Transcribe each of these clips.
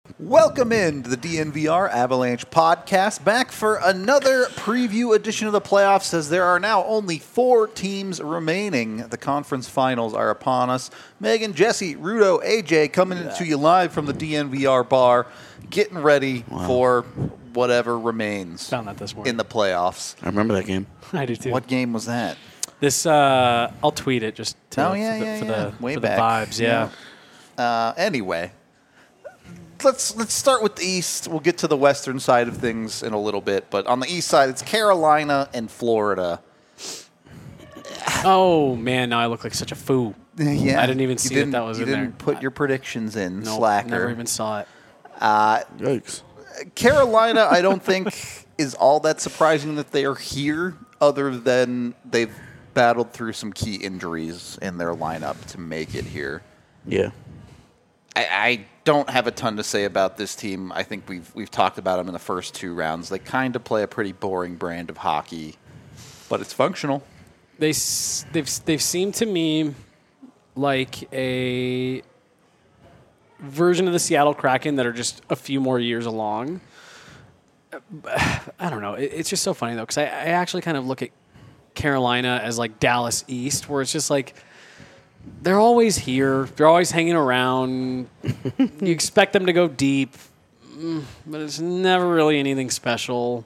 Welcome in to the DNVR Avalanche podcast, back for another preview edition of the playoffs, as there are now only 4 teams remaining. The conference finals are upon us. Megan, Jesse, Rudo, AJ coming to you live from the DNVR bar, getting ready for whatever remains Found that this morning in the playoffs. I remember that game. I do too. What game was that? This I'll tweet it just to, for the vibes. Yeah. Anyway, let's start with the East. We'll get to the Western side of things in a little bit, but on the East side, it's Carolina and Florida. Oh man, now I look like such a fool. Yeah, I didn't even see that was in there. You didn't put your predictions in, Nope, slacker. Never even saw it. Yikes. Carolina, I don't think is all that surprising that they are here, other than they've battled through some key injuries in their lineup to make it here. Yeah. I don't have a ton to say about this team. I think we've talked about them in the first 2 rounds. They kind of play a pretty boring brand of hockey, but it's functional. They've seemed to me like a version of the Seattle Kraken that are just a few more years along. I don't know. It's just so funny though, because I actually kind of look at Carolina as like Dallas East, where it's just like they're always here. They're always hanging around. You expect them to go deep, but it's never really anything special.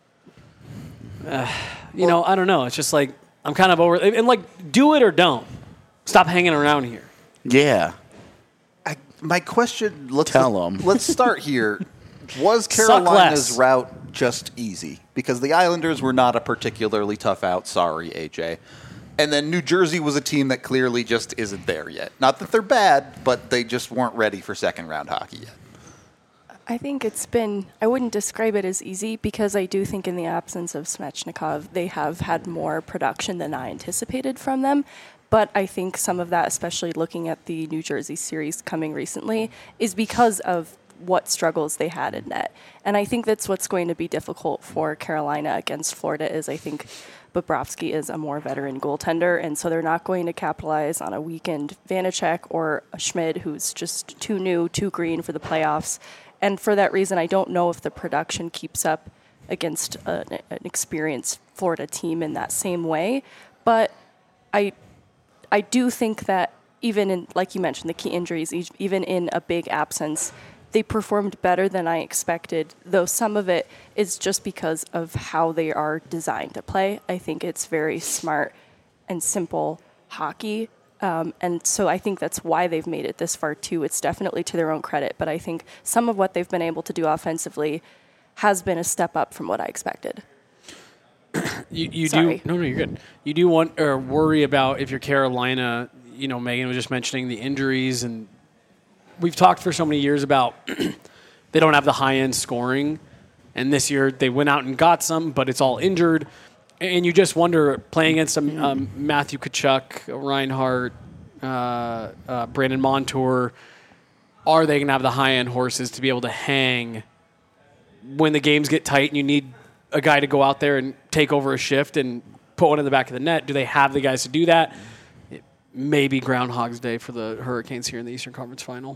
I don't know. It's just like I'm kind of over it. And like, do it or don't. Stop hanging around here. Yeah. My question, Tell 'em. Let's start here. Was Carolina's route just easy? Because the Islanders were not a particularly tough out. Sorry, AJ. And then New Jersey was a team that clearly just isn't there yet. Not that they're bad, but they just weren't ready for second-round hockey yet. I think I wouldn't describe it as easy, because I do think in the absence of Svechnikov, they have had more production than I anticipated from them. But I think some of that, especially looking at the New Jersey series coming recently, is because of what struggles they had in net. And I think that's what's going to be difficult for Carolina against Florida is I think Bobrovsky is a more veteran goaltender, and so they're not going to capitalize on a weakened Vanacek or a Schmid who's just too new, too green for the playoffs. And for that reason, I don't know if the production keeps up against an experienced Florida team in that same way. But I do think that even in, like you mentioned, the key injuries, even in a big absence, they performed better than I expected, though some of it is just because of how they are designed to play. I think it's very smart and simple hockey, and so I think that's why they've made it this far, too. It's definitely to their own credit, but I think some of what they've been able to do offensively has been a step up from what I expected. You're good. You do want or worry about if you're Carolina. Megan was just mentioning the injuries, and we've talked for so many years about they don't have the high-end scoring, and this year they went out and got some, but it's all injured, and you just wonder, playing against Matthew Tkachuk, Reinhart, Brandon Montour, are they going to have the high-end horses to be able to hang when the games get tight and you need a guy to go out there and take over a shift and put one in the back of the net? Do they have the guys to do that? It may be Groundhog's Day for the Hurricanes here in the Eastern Conference Final.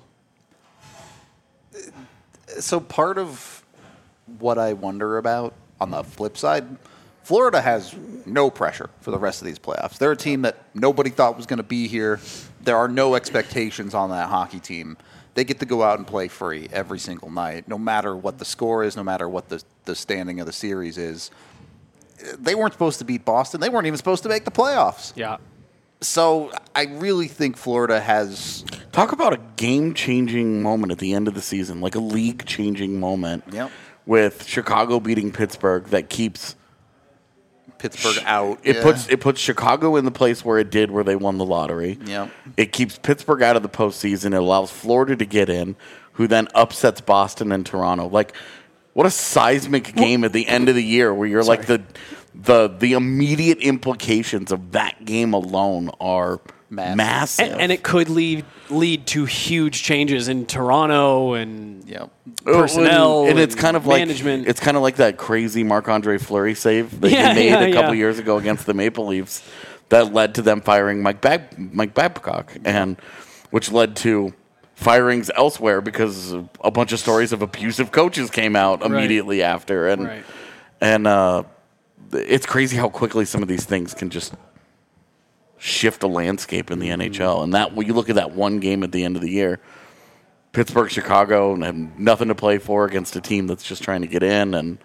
So part of what I wonder about on the flip side, Florida has no pressure for the rest of these playoffs. They're a team that nobody thought was going to be here. There are no expectations on that hockey team. They get to go out and play free every single night, no matter what the score is, no matter what the standing of the series is. They weren't supposed to beat Boston. They weren't even supposed to make the playoffs. Yeah. So I really think Florida has... Talk about a game-changing moment at the end of the season, like a league-changing moment. Yep. With Chicago beating Pittsburgh that keeps Pittsburgh out. It puts Chicago in the place where it did, where they won the lottery. Yep. It keeps Pittsburgh out of the postseason. It allows Florida to get in, who then upsets Boston and Toronto. Like, what a seismic game at the end of the year, where you're like the immediate implications of that game alone are massive. And it could lead to huge changes in Toronto and personnel and it's kind of management. Like it's kind of like that crazy Marc-Andre Fleury save that he made a couple years ago against the Maple Leafs that led to them firing Mike Babcock, and which led to firings elsewhere because a bunch of stories of abusive coaches came out immediately after. And it's crazy how quickly some of these things can just shift the landscape in the NHL. And that when you look at that one game at the end of the year, Pittsburgh, Chicago, and have nothing to play for against a team that's just trying to get in, and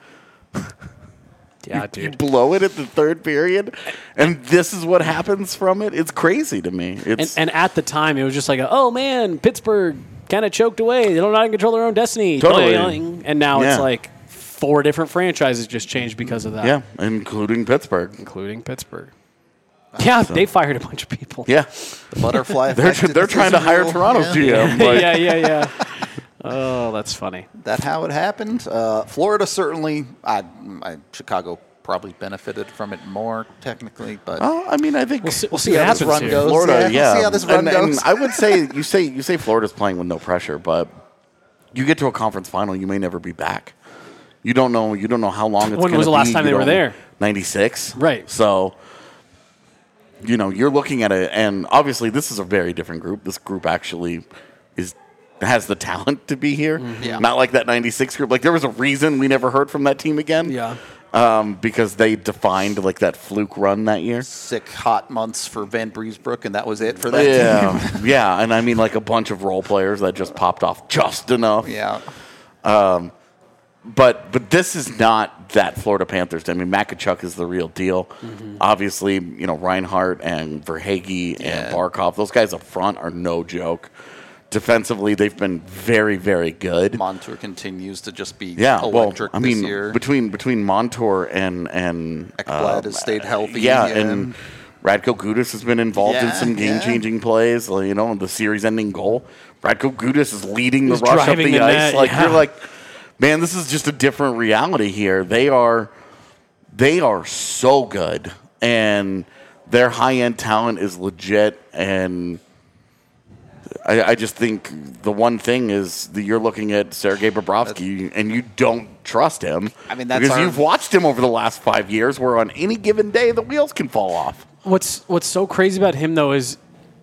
you blow it at the third period, and this is what happens from it. It's crazy to me. And at the time, it was just like, oh man, Pittsburgh kind of choked away. They don't know how to control their own destiny. Totally. And now it's like 4 different franchises just changed because of that. Yeah, including Pittsburgh. Yeah, they fired a bunch of people. Yeah, The butterfly they're effect trying to hire real. Toronto's Yeah. GM. Like, Yeah. Oh, that's funny. That how it happened. Florida certainly. Chicago probably benefited from it more technically, but I mean, I think We'll see how what this happens run here. goes. Florida, We'll see how this run goes. And I would say you say Florida's playing with no pressure, but you get to a conference final, you may never be back. You don't know how long it's going to be. When was the last time they were there? 96. Right. So, you're looking at it, and obviously this is a very different group. This group actually has the talent to be here. Yeah. Not like that 96 group. Like, there was a reason we never heard from that team again. Yeah. Because they defined like that fluke run that year. 6 hot months for Van Breesbrook, and that was it for that team. Yeah, and I mean like a bunch of role players that just popped off just enough. Yeah. But this is not that Florida Panthers. I mean, Matt Tkachuk is the real deal. Obviously, Reinhart and Verhaeghe and Barkov, those guys up front are no joke. Defensively, they've been very, very good. Montour continues to just be well, electric I mean, this year. between Montour and Ekblad has stayed healthy. and Radko Gudas has been involved in Yeah, some game-changing plays. The series-ending goal. Radko Gudas is leading the rush up driving the the ice. net, You're like, man, this is just a different reality here. They are so good, and their high-end talent is legit. And I just think the one thing is that you're looking at Sergei Bobrovsky, and you don't trust him. I mean, that's because our- you've watched him over the last 5 years, where on any given day the wheels can fall off. What's so crazy about him though is,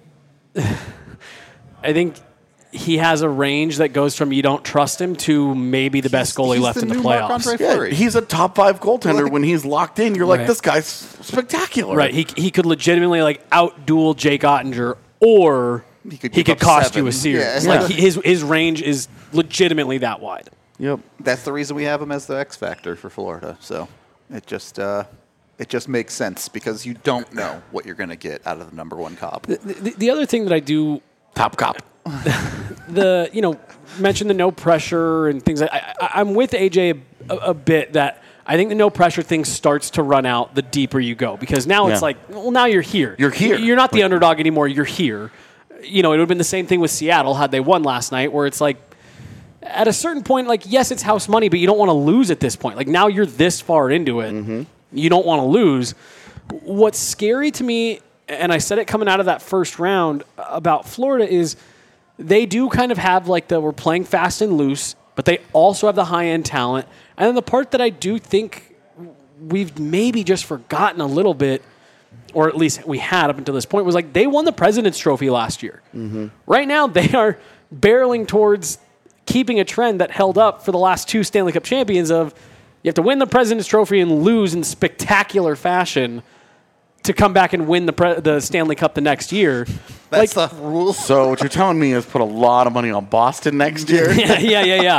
I think he has a range that goes from you don't trust him to maybe the best goalie He's left in the new playoffs. Marc-Andre Yeah, Fleury. he's a top 5 goaltender. Like- When he's locked in, you're like, Right. this guy's spectacular. Right, he could legitimately out-duel Jake Ottinger, or He could he give could up cost 7. you a series. Yeah. Like his range is legitimately that wide. Yep. That's the reason we have him as the X factor for Florida. So it just makes sense because you don't know what you're going to get out of the number 1 cop. The other thing that I do Top cop. mention the no pressure and things. I'm with AJ a bit that I think the no pressure thing starts to run out the deeper you go, because now it's like, well, now you're here. You're here. You're not the underdog anymore. You're here. It would have been the same thing with Seattle had they won last night, where it's like, at a certain point, like, yes, it's house money, but you don't want to lose at this point. Like, now you're this far into it. You don't want to lose. What's scary to me, and I said it coming out of that first round about Florida, is they do kind of have like we're playing fast and loose, but they also have the high-end talent. And then the part that I do think we've maybe just forgotten a little bit, or at least we had up until this point, was like they won the President's Trophy last year. Right now, they are barreling towards keeping a trend that held up for the last 2 Stanley Cup champions of you have to win the President's Trophy and lose in spectacular fashion to come back and win the Stanley Cup the next year. That's the rule. So what you're telling me is put a lot of money on Boston next year? Yeah.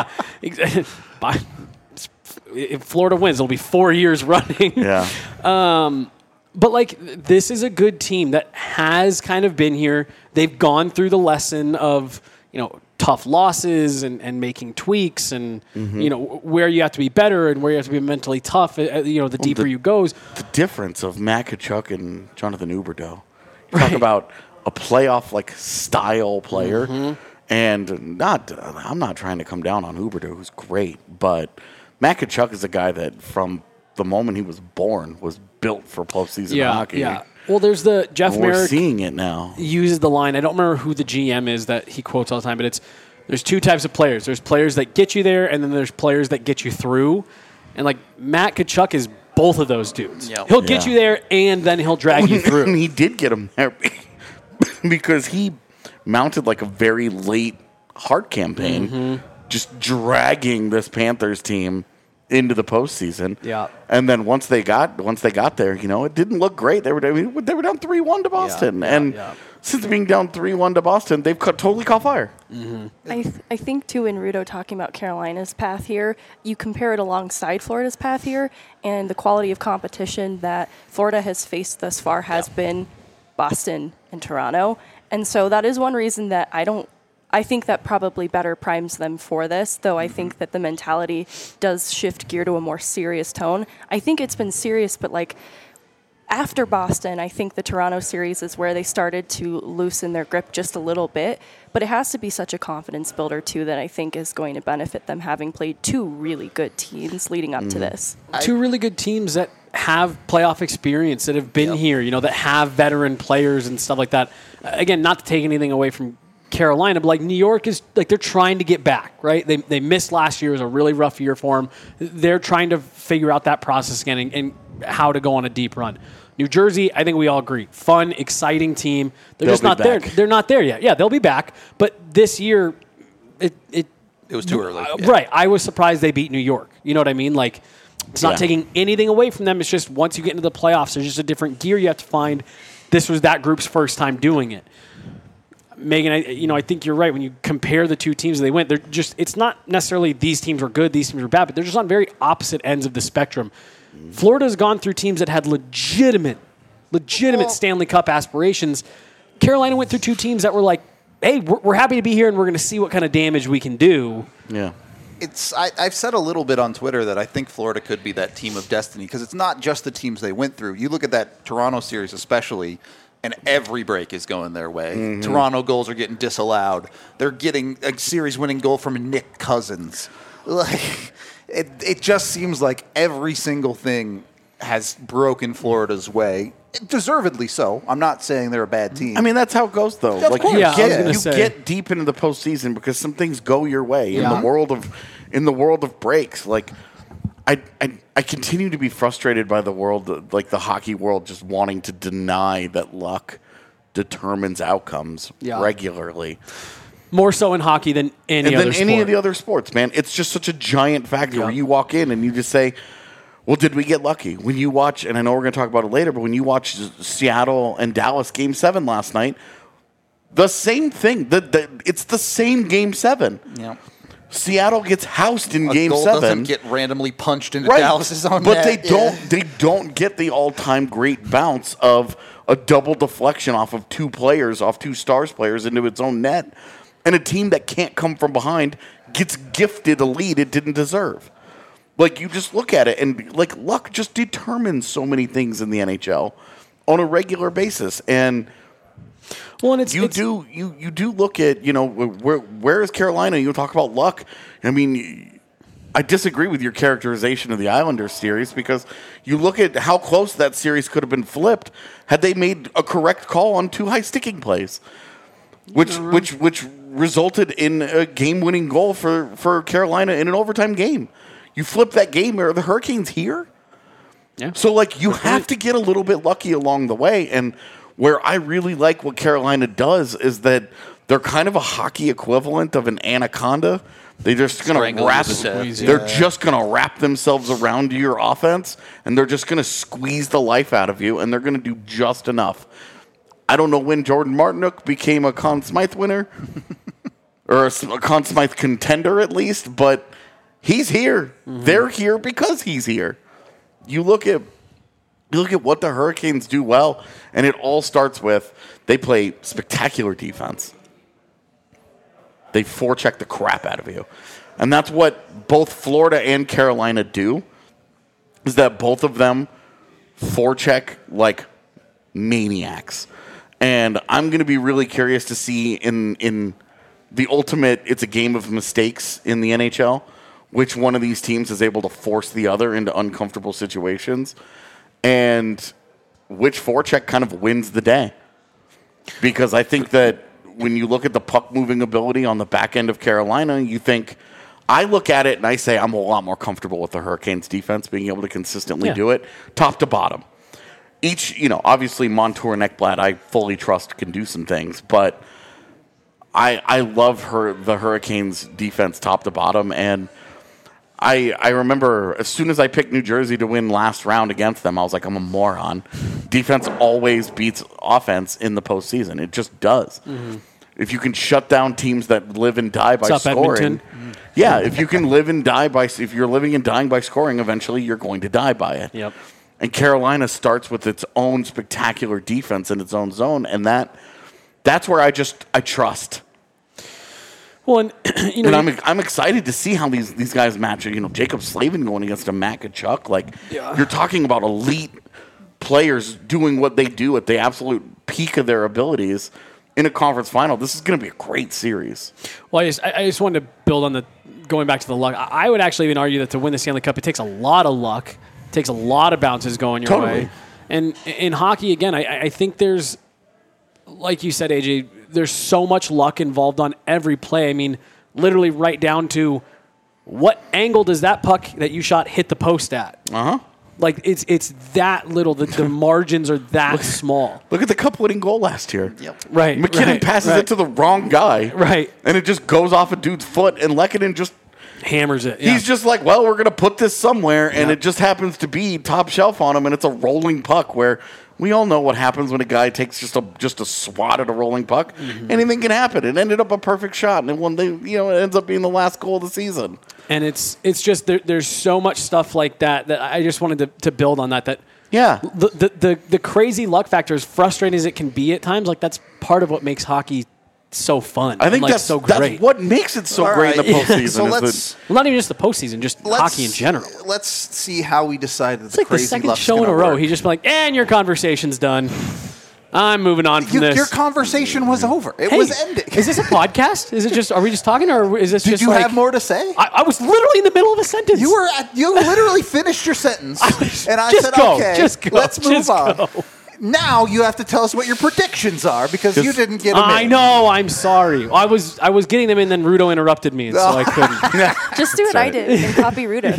If Florida wins, it'll be 4 years running. Yeah. But this is a good team that has kind of been here. They've gone through the lesson of, tough losses and making tweaks and, where you have to be better and where you have to be mentally tough, the deeper you goes. The difference of Matt Tkachuk and Jonathan Huberdeau. You talk about a playoff style player, and I'm not trying to come down on Huberdeau, who's great, but Matt Tkachuk is a guy that from the moment he was born was built for postseason hockey. Yeah. Well, there's the Jeff We're Merrick seeing it now. uses the line. I don't remember who the GM is that he quotes all the time, but there's 2 types of players. There's players that get you there, and then there's players that get you through. And Matt Tkachuk is both of those dudes. Yep. He'll get you there, and then he'll drag you through. And he did get him there because he mounted a very late Hart campaign, just dragging this Panthers team into the postseason. Yeah. And then once they got there, it didn't look great. They were down 3-1 to Boston, since being down 3-1 to Boston, they've totally caught fire. I think, too, in Rudo talking about Carolina's path here, you compare it alongside Florida's path here, and the quality of competition that Florida has faced thus far has been Boston and Toronto. And so that is one reason that I think that probably better primes them for this, though I think that the mentality does shift gear to a more serious tone. I think it's been serious, but after Boston, I think the Toronto series is where they started to loosen their grip just a little bit. But it has to be such a confidence builder, too, that I think is going to benefit them having played two really good teams leading up to this. Two really good teams that have playoff experience, that have been here, that have veteran players and stuff like that. Again, not to take anything away from Carolina, but New York is they're trying to get back, right? They missed last year. It was a really rough year for them. They're trying to figure out that process again and how to go on a deep run. New Jersey, I think we all agree, fun, exciting team. They're just not there. They're not there yet. Yeah, they'll be back. But this year, it was too early. Right. I was surprised they beat New York. You know what I mean? It's not taking anything away from them. It's just once you get into the playoffs, there's just a different gear you have to find. This was that group's first time doing it. Megan, I think you're right. When you compare the two teams they went, it's not necessarily these teams were good, these teams were bad, but they're just on very opposite ends of the spectrum. Florida's gone through teams that had legitimate Stanley Cup aspirations. Carolina went through two teams that were like, hey, we're happy to be here and we're going to see what kind of damage we can do. Yeah. I've said a little bit on Twitter that I think Florida could be that team of destiny because it's not just the teams they went through. You look at that Toronto series especially, and every break is going their way. Toronto goals are getting disallowed. They're getting a series-winning goal from Nick Cousins. It just seems like every single thing has broken Florida's way. Deservedly so. I'm not saying they're a bad team. I mean, that's how it goes, though. Of course. You get deep into the postseason because some things go your way in the world of breaks. I continue to be frustrated by the world, the hockey world, just wanting to deny that luck determines outcomes regularly. More so in hockey than any of the other sports, man. It's just such a giant factor where you walk in and you just say, well, did we get lucky? When you watch, and I know we're going to talk about it later, but when you watch Seattle and Dallas Game 7 last night, the same thing. It's the same Game 7. Yeah. Seattle gets housed in Game 7. Doesn't get randomly punched into Dallas's own net. But they don't get the all-time great bounce of a double deflection off of two Stars players into its own net. And a team that can't come from behind gets gifted a lead it didn't deserve. You just look at it, and luck just determines so many things in the NHL on a regular basis. And you do look at where is Carolina? You talk about luck. I mean, I disagree with your characterization of the Islanders series because you look at how close that series could have been flipped had they made a correct call on two high sticking plays, which resulted in a game-winning goal for Carolina in an overtime game. You flip that game, are the Hurricanes here? Yeah. So, you have to get a little bit lucky along the way. And where I really like what Carolina does is that they're kind of a hockey equivalent of an anaconda. They're just going to wrap themselves around your offense, and they're just going to squeeze the life out of you, and they're going to do just enough. I don't know when Jordan Martinook became a Conn Smythe winner, or a Conn Smythe contender at least, but he's here. Mm-hmm. They're here because he's here. You look at what the Hurricanes do well, and it all starts with they play spectacular defense. They forecheck the crap out of you. And that's what both Florida and Carolina do, is that both of them forecheck like maniacs. And I'm going to be really curious to see in the ultimate, it's a game of mistakes in the NHL, which one of these teams is able to force the other into uncomfortable situations, and which forecheck kind of wins the day. Because I think that when you look at the puck-moving ability on the back end of Carolina, you think, I look at it and I say I'm a lot more comfortable with the Hurricanes' defense being able to consistently do it, top to bottom. Obviously Montour and Ekblad I fully trust can do some things, but I love the Hurricanes defense top to bottom, and I remember as soon as I picked New Jersey to win last round against them, I was like, I'm a moron. Defense always beats offense in the postseason. It just does. Mm-hmm. If you can shut down teams that live and die by scoring, yeah, if you can live and die if you're living and dying by scoring, eventually you're going to die by it. Yep. And Carolina starts with its own spectacular defense in its own zone, and that's where I trust. Well, and I'm excited to see how these guys match. Jacob Slavin going against a Matt Tkachuk. Like, you're talking about elite players doing what they do at the absolute peak of their abilities in a conference final. This is going to be a great series. Well, I just wanted to build on going back to the luck. I would actually even argue that to win the Stanley Cup, it takes a lot of luck. It takes a lot of bounces going your way. And in hockey, again, I think there's, like you said, AJ, there's so much luck involved on every play. I mean, literally right down to what angle does that puck that you shot hit the post at? Uh-huh. Like, it's that little. The margins are that small. Look at the cup-winning goal last year. Yep. Right. McKinnon passes it to the wrong guy. Right. And it just goes off a dude's foot, and Lehkonen just hammers it. Yeah. He's just like, well, we're going to put this somewhere, and it just happens to be top shelf on him, and it's a rolling puck where we all know what happens when a guy takes just a swat at a rolling puck. Mm-hmm. Anything can happen. It ended up a perfect shot, and it ends up being the last goal of the season. And it's just there's so much stuff like that I just wanted to build on that. Yeah. The crazy luck factor, as frustrating as it can be at times, like that's part of what makes hockey so fun. I think that's so great. That's what makes it so great in the postseason. So let's not even just the postseason, just hockey in general. Let's see how we decided it's like the second show in a row. He's just been like, and your conversation's done. I'm moving on from this. Your conversation was over. It was ending. Is this a podcast? Is it just? Are we just talking, or is this Did just? Did you like, have more to say? I was literally in the middle of a sentence. You literally finished your sentence, and I said, "Okay, let's move on." Now you have to tell us what your predictions are because you didn't get them in. I know. I'm sorry. I was getting them in, then Rudo interrupted me, and so I couldn't. Just do what I did and copy Rudo.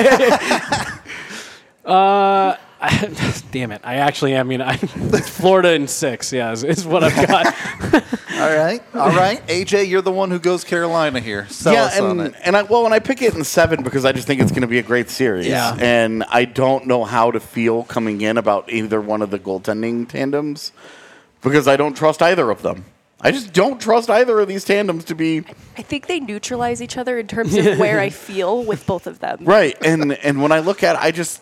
Damn it. I actually, it's Florida in 6, is what I've got. All right. AJ, you're the one who goes Carolina here. Sell us on it. And I pick it in 7 because I just think it's going to be a great series. Yeah. And I don't know how to feel coming in about either one of the goaltending tandems because I don't trust either of them. I just don't trust either of these tandems to be. I think they neutralize each other in terms of where I feel with both of them. Right. And when I look at it,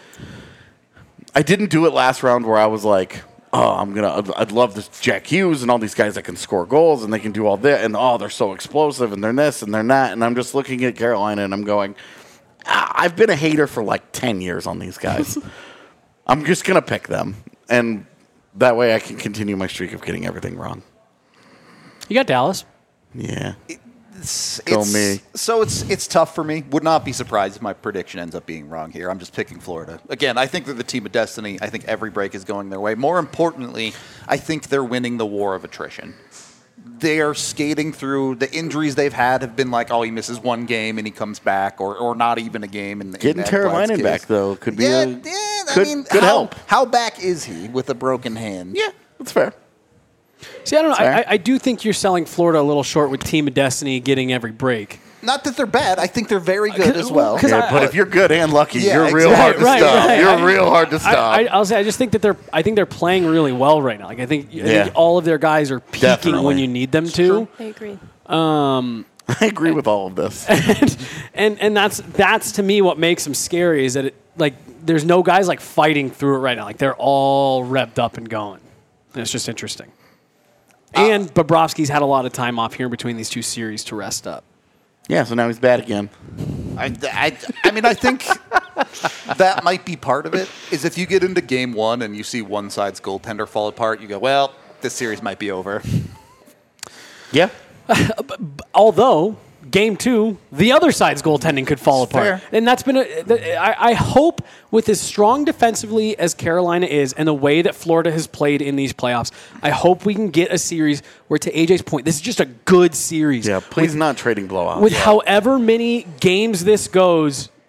I didn't do it last round where I was like, I'd love this Jack Hughes and all these guys that can score goals and they can do all that and they're so explosive and they're this and they're that, and I'm just looking at Carolina and I'm going, I've been a hater for like 10 years on these guys. I'm just gonna pick them, and that way I can continue my streak of getting everything wrong. You got Dallas. Yeah. Go me. So it's tough for me. Would not be surprised if my prediction ends up being wrong here. I'm just picking Florida. Again, I think they're the team of destiny. I think every break is going their way. More importantly, I think they're winning the war of attrition. They are skating through the injuries they've had have been like, he misses one game and he comes back, or not even a game. Getting Carolina back though could be could help. How back is he with a broken hand? Yeah, that's fair. See, I don't know. I do think you're selling Florida a little short with Team of Destiny getting every break. Not that they're bad. I think they're very good as well. But if you're good and lucky, you're real hard to stop. Right. You're real hard to stop. I'll say I just think that they're playing really well right now. Like I think all of their guys are peaking when you need them to. I agree. I agree with all of this. and that's to me what makes them scary is that there's no guys like fighting through it right now. Like they're all revved up and going. And it's just interesting. And Bobrovsky's had a lot of time off here between these two series to rest up. Yeah, so now he's bad again. I think that might be part of it, is if you get into game one and you see one side's goaltender fall apart, you go, well, this series might be over. Yeah. Although, game 2, the other side's goaltending could fall apart. Fair. And that's been I hope with as strong defensively as Carolina is and the way that Florida has played in these playoffs, I hope we can get a series where, to AJ's point, this is just a good series. Yeah, please not trading blowouts. With however many games this goes,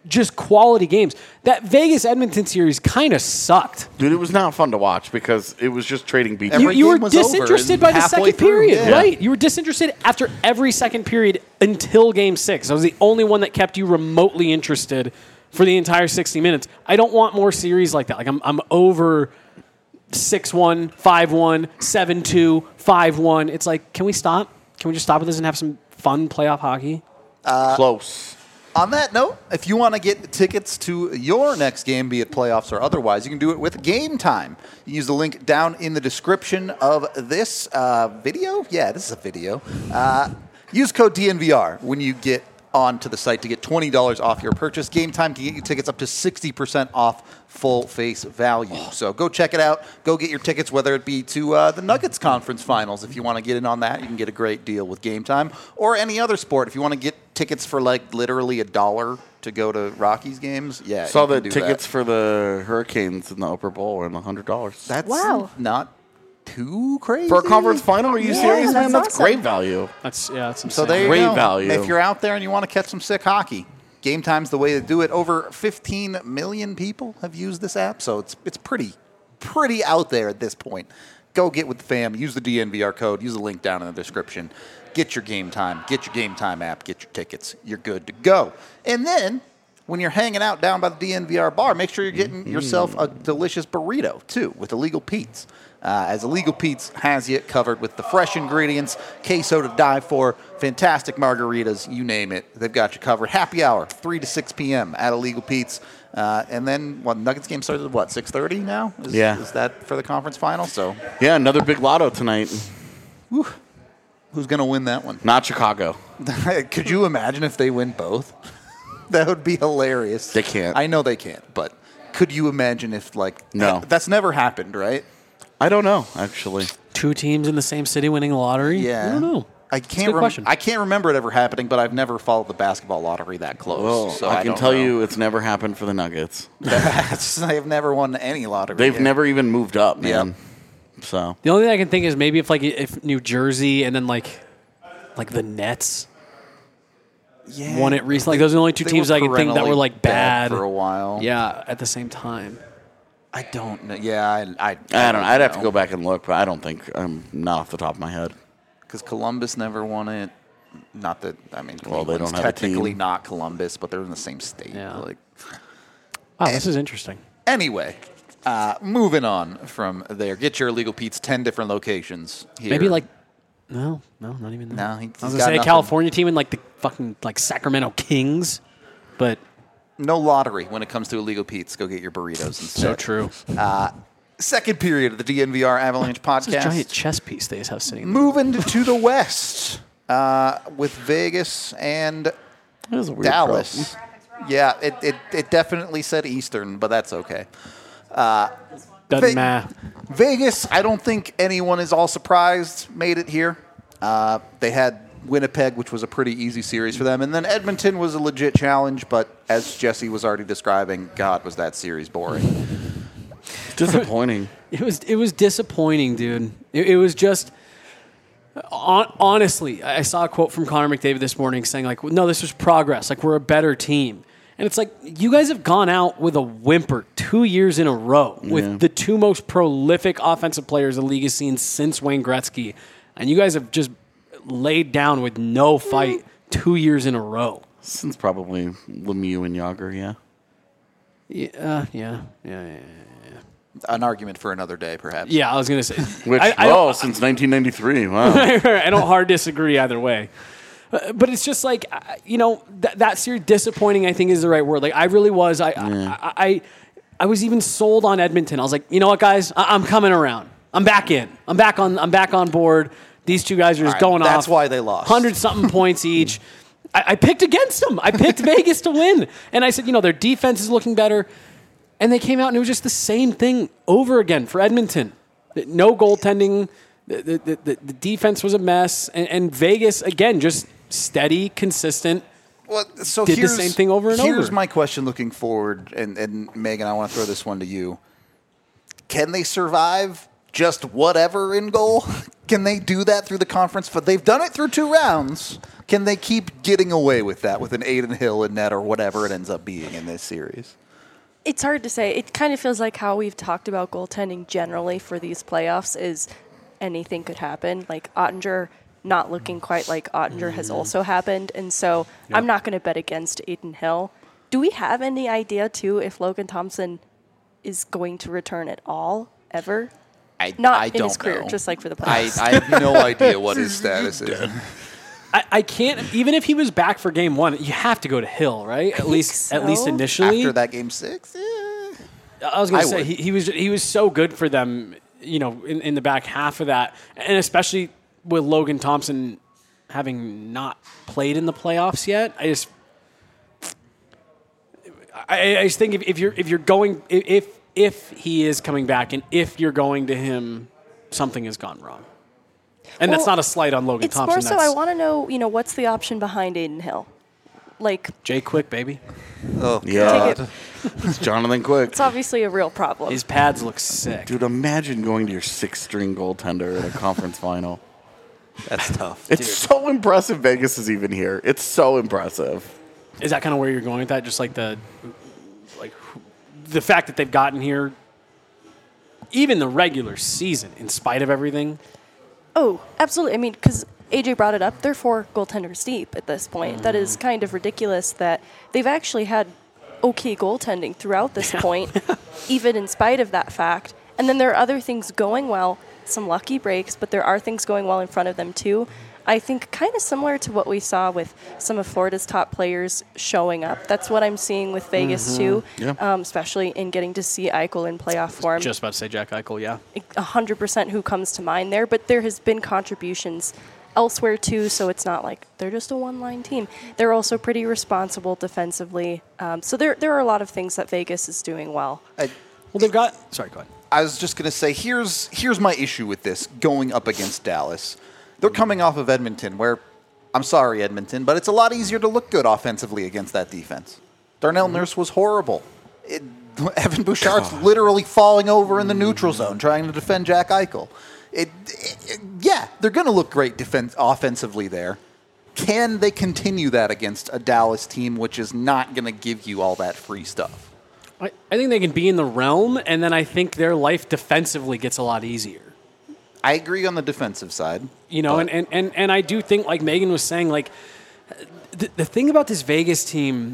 just quality games. That Vegas Edmonton series kind of sucked. Dude, it was not fun to watch because it was just trading beats. Every You were game was over disinterested by the halfway second through, period, yeah. right? You were disinterested after every second period until Game 6. I was the only one that kept you remotely interested for the entire 60 minutes. I don't want more series like that. Like I'm over 6-1, 5-1, 7-2, 5-1. It's like, can we stop? Can we just stop with this and have some fun playoff hockey? Close. On that note, if you want to get tickets to your next game, be it playoffs or otherwise, you can do it with Game Time. You use the link down in the description of this video. Yeah, this is a video. Use code DNVR when you get onto the site to get $20 off your purchase. Game Time can get you tickets up to 60% off full face value. So go check it out. Go get your tickets, whether it be to the Nuggets conference finals. If you want to get in on that, you can get a great deal with Game Time. Or any other sport. If you want to get tickets for like literally $1 to go to Rockies games, yeah. Saw you the can do tickets that. for the Hurricanes in the Upper Bowl were $100. That's Wow. not too crazy. For a conference final? Are you Yeah, serious, man? that's That's awesome. great value. That's insane. So there you Great go. value. If you're out there and you want to catch some sick hockey, Game Time's the way to do it. Over 15 million people have used this app, so it's pretty out there at this point. Go get with the fam. Use the DNVR code. Use the link down in the description. Get your Game Time. Get your Game Time app. Get your tickets. You're good to go. And then when you're hanging out down by the DNVR bar, make sure you're getting yourself a delicious burrito, too, with Illegal Pete's. As Illegal Pete's has you covered with the fresh ingredients, queso to die for, fantastic margaritas, you name it. They've got you covered. Happy hour, 3 to 6 p.m. at Illegal Pete's. And then, Nuggets game starts at what, 6:30 now? Yeah. Is that for the conference final? So, Yeah, another big lotto tonight. who's going to win that one? Not Chicago. Could you imagine if they win both? That would be hilarious. They can't. I know they can't, but could you imagine if, No. That's never happened, right? I don't know, actually. Two teams in the same city winning the lottery? Yeah. I don't know. I That's a can't. good question. I can't remember it ever happening, but I've never followed the basketball lottery that close. Well, so I can don't tell know. you it's never happened for the Nuggets. They've never won any lottery. They've here. never even moved up, man. Yep. So The only thing I can think is maybe if New Jersey and then like the Nets won it recently. Like those are the only two They teams were I can think that perennially were like bad for a while. Yeah, at the same time. I don't know. Yeah, I I don't know. I'd have to go back and look, but I don't think I'm not off the top of my head. because Columbus never won it. Not that Well, they Cleveland's don't have a technically team. not Columbus, but they're in the same state. Yeah. Like, Wow, this is interesting. anyway, moving on from there. Get your Illegal Pete's 10 different locations here. Maybe no, not even that. No, I was he's gonna got say a nothing. California team and like the fucking like Sacramento Kings, but No lottery when it comes to Illegal Pete's. Go get your burritos instead. so true. Second period of the DNVR Avalanche podcast. This giant chess piece they just have sitting. Moving to the West with Vegas and That was a weird Dallas. Yeah, it definitely said Eastern, but that's okay. Doesn't matter. Vegas, I don't think anyone is all surprised, made it here. They had Winnipeg, which was a pretty easy series for them. And then Edmonton was a legit challenge, but as Jesse was already describing, God, was that series boring. Disappointing. It was disappointing, dude. It was just honestly. I saw a quote from Connor McDavid this morning saying like, "No, this was progress. Like we're a better team." And it's like you guys have gone out with a whimper 2 years in a row with the two most prolific offensive players the league has seen since Wayne Gretzky, and you guys have just laid down with no fight 2 years in a row. Since probably Lemieux and Yager, yeah. Yeah. An argument for another day, perhaps. Yeah, I was gonna say. Which, I don't- since 1993, wow. I don't hard disagree either way. But it's just like, that series, disappointing, I think is the right word. Like, I really was. I was even sold on Edmonton. I was like, you know what, guys? I'm coming around. I'm back in. I'm back on board. These two guys are just going off. That's why they lost. 100-something points each. I picked against them. I picked Vegas to win. And I said, their defense is looking better. And they came out, and it was just the same thing over again for Edmonton. No goaltending. The defense was a mess. And Vegas, again, just steady, consistent. Well, so Did the same thing over and Here's over. my question looking forward, and Megan, I want to throw this one to you. Can they survive just whatever in goal? Can they do that through the conference? But they've done it through 2 rounds. Can they keep getting away with that with an Aiden Hill and net or whatever it ends up being in this series? It's hard to say. It kind of feels like how we've talked about goaltending generally for these playoffs is anything could happen. Like Ottinger not looking quite like Ottinger has also happened. And so I'm not going to bet against Aiden Hill. Do we have any idea, too, if Logan Thompson is going to return at all, ever? Not in his career, just like for the playoffs. I have no idea what his status is. I can't, even if he was back for game 1, you have to go to Hill, right? At least initially. After that game 6? Yeah. I was going to say, he was so good for them, in the back half of that. And especially with Logan Thompson having not played in the playoffs yet, I just think if you're going, if he is coming back and if you're going to him, something has gone wrong. And that's not a slight on Logan Thompson. It's more so I want to know, what's the option behind Aiden Hill? Like Jay Quick, baby. Oh, Yeah. God. It's Jonathan Quick. It's obviously a real problem. His pads look sick. Dude, imagine going to your 6th-string goaltender in a conference final. That's tough. It's so impressive Vegas is even here. It's so impressive. Is that kind of where you're going with that? Just like the fact that they've gotten here, even the regular season, in spite of everything. Oh, absolutely. I mean, because AJ brought it up, they're 4 goaltenders deep at this point. That is kind of ridiculous that they've actually had okay goaltending throughout this point, even in spite of that fact. And then there are other things going well, some lucky breaks, but there are things going well in front of them too. I think kind of similar to what we saw with some of Florida's top players showing up. That's what I'm seeing with Vegas too, especially in getting to see Eichel in playoff form. Just about to say Jack Eichel, yeah. 100% who comes to mind there, but there has been contributions elsewhere too, so it's not like they're just a one-line team. They're also pretty responsible defensively. So there are a lot of things that Vegas is doing well. Well, they've got... Sorry, go ahead. I was just going to say, here's my issue with this going up against Dallas. They're coming off of Edmonton, where, I'm sorry, Edmonton, but it's a lot easier to look good offensively against that defense. Darnell Nurse was horrible. Evan Bouchard's literally falling over in the neutral zone trying to defend Jack Eichel. Yeah, they're going to look great offensively there. Can they continue that against a Dallas team which is not going to give you all that free stuff? I think they can be in the realm, and then I think their life defensively gets a lot easier. I agree on the defensive side. And I do think, like Megan was saying, like the thing about this Vegas team,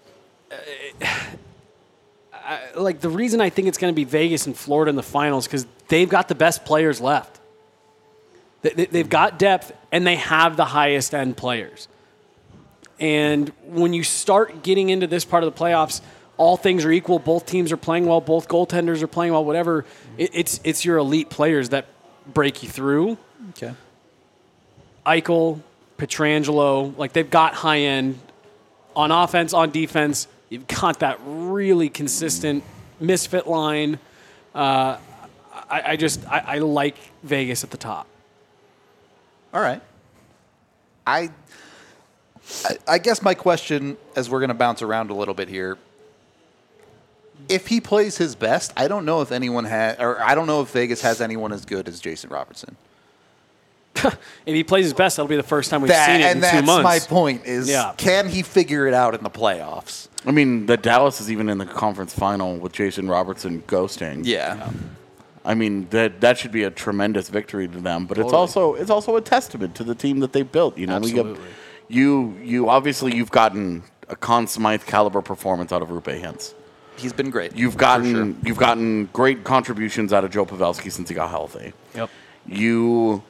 like the reason I think it's going to be Vegas and Florida in the finals because they've got the best players left. They've got depth, and they have the highest end players. And when you start getting into this part of the playoffs, all things are equal. Both teams are playing well. Both goaltenders are playing well. Whatever. It's your elite players that break you through. Okay. Eichel, Pietrangelo, like they've got high end on offense, on defense. You've got that really consistent misfit line. I like Vegas at the top. All right. I guess my question, as we're going to bounce around a little bit here, if he plays his best, I don't know if I don't know if Vegas has anyone as good as Jason Robertson. If he plays his best, that'll be the first time we've seen it in 2 months. And that's my point is, can he figure it out in the playoffs? I mean, the Dallas is even in the conference final with Jason Robertson ghosting. Yeah. I mean, that should be a tremendous victory to them, but it's also a testament to the team that they built. Absolutely. You obviously you've gotten a Conn Smythe caliber performance out of Rupe Hintz. He's been great. You've gotten great contributions out of Joe Pavelski since he got healthy. Yep. You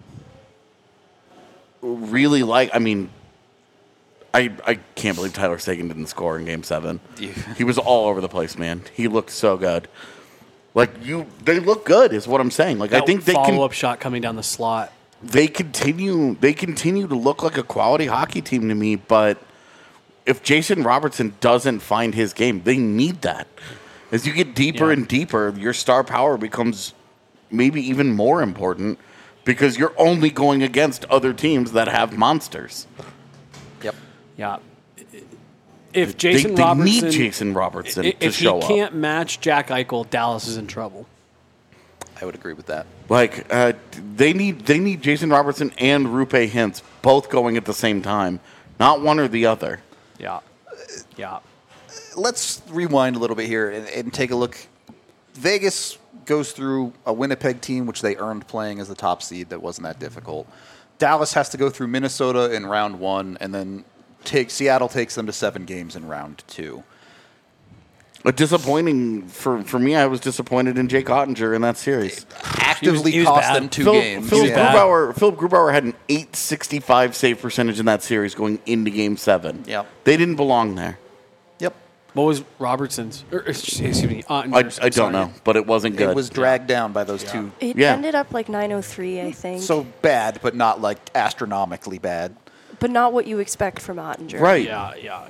really like. I mean, I can't believe Tyler Seguin didn't score in Game 7. Yeah. He was all over the place, man. He looked so good. They look good, is what I'm saying. Like that I think they follow-up shot coming down the slot. They continue to look like a quality hockey team to me, but if Jason Robertson doesn't find his game, they need that. As you get deeper and deeper, your star power becomes maybe even more important because you're only going against other teams that have monsters. Yep. Yeah. If Jason they Robertson need Jason Robertson to show up. If he can't match Jack Eichel, Dallas is in trouble. I would agree with that. Like they need Jason Robertson and Rupe Hintz both going at the same time, not one or the other. Yeah. Yeah. Let's rewind a little bit here and take a look. Vegas goes through a Winnipeg team, which they earned playing as the top seed. That wasn't that difficult. Dallas has to go through Minnesota in round 1, and then Seattle takes them to 7 games in round 2. Disappointing for me. I was disappointed in Jake Ottinger in that series. Actively he was cost bad. them 2 games. Philip bad. Grubauer had an .865 save percentage in that series going into Game 7. Yep. They didn't belong there. Yep. What was Robertson's? Excuse me. Ottinger's, I don't know, but it wasn't good. It was dragged down by those two. It Yeah. ended up like 903, I think. So bad, but not like astronomically bad. but not what you expect from Ottinger. Right. Yeah.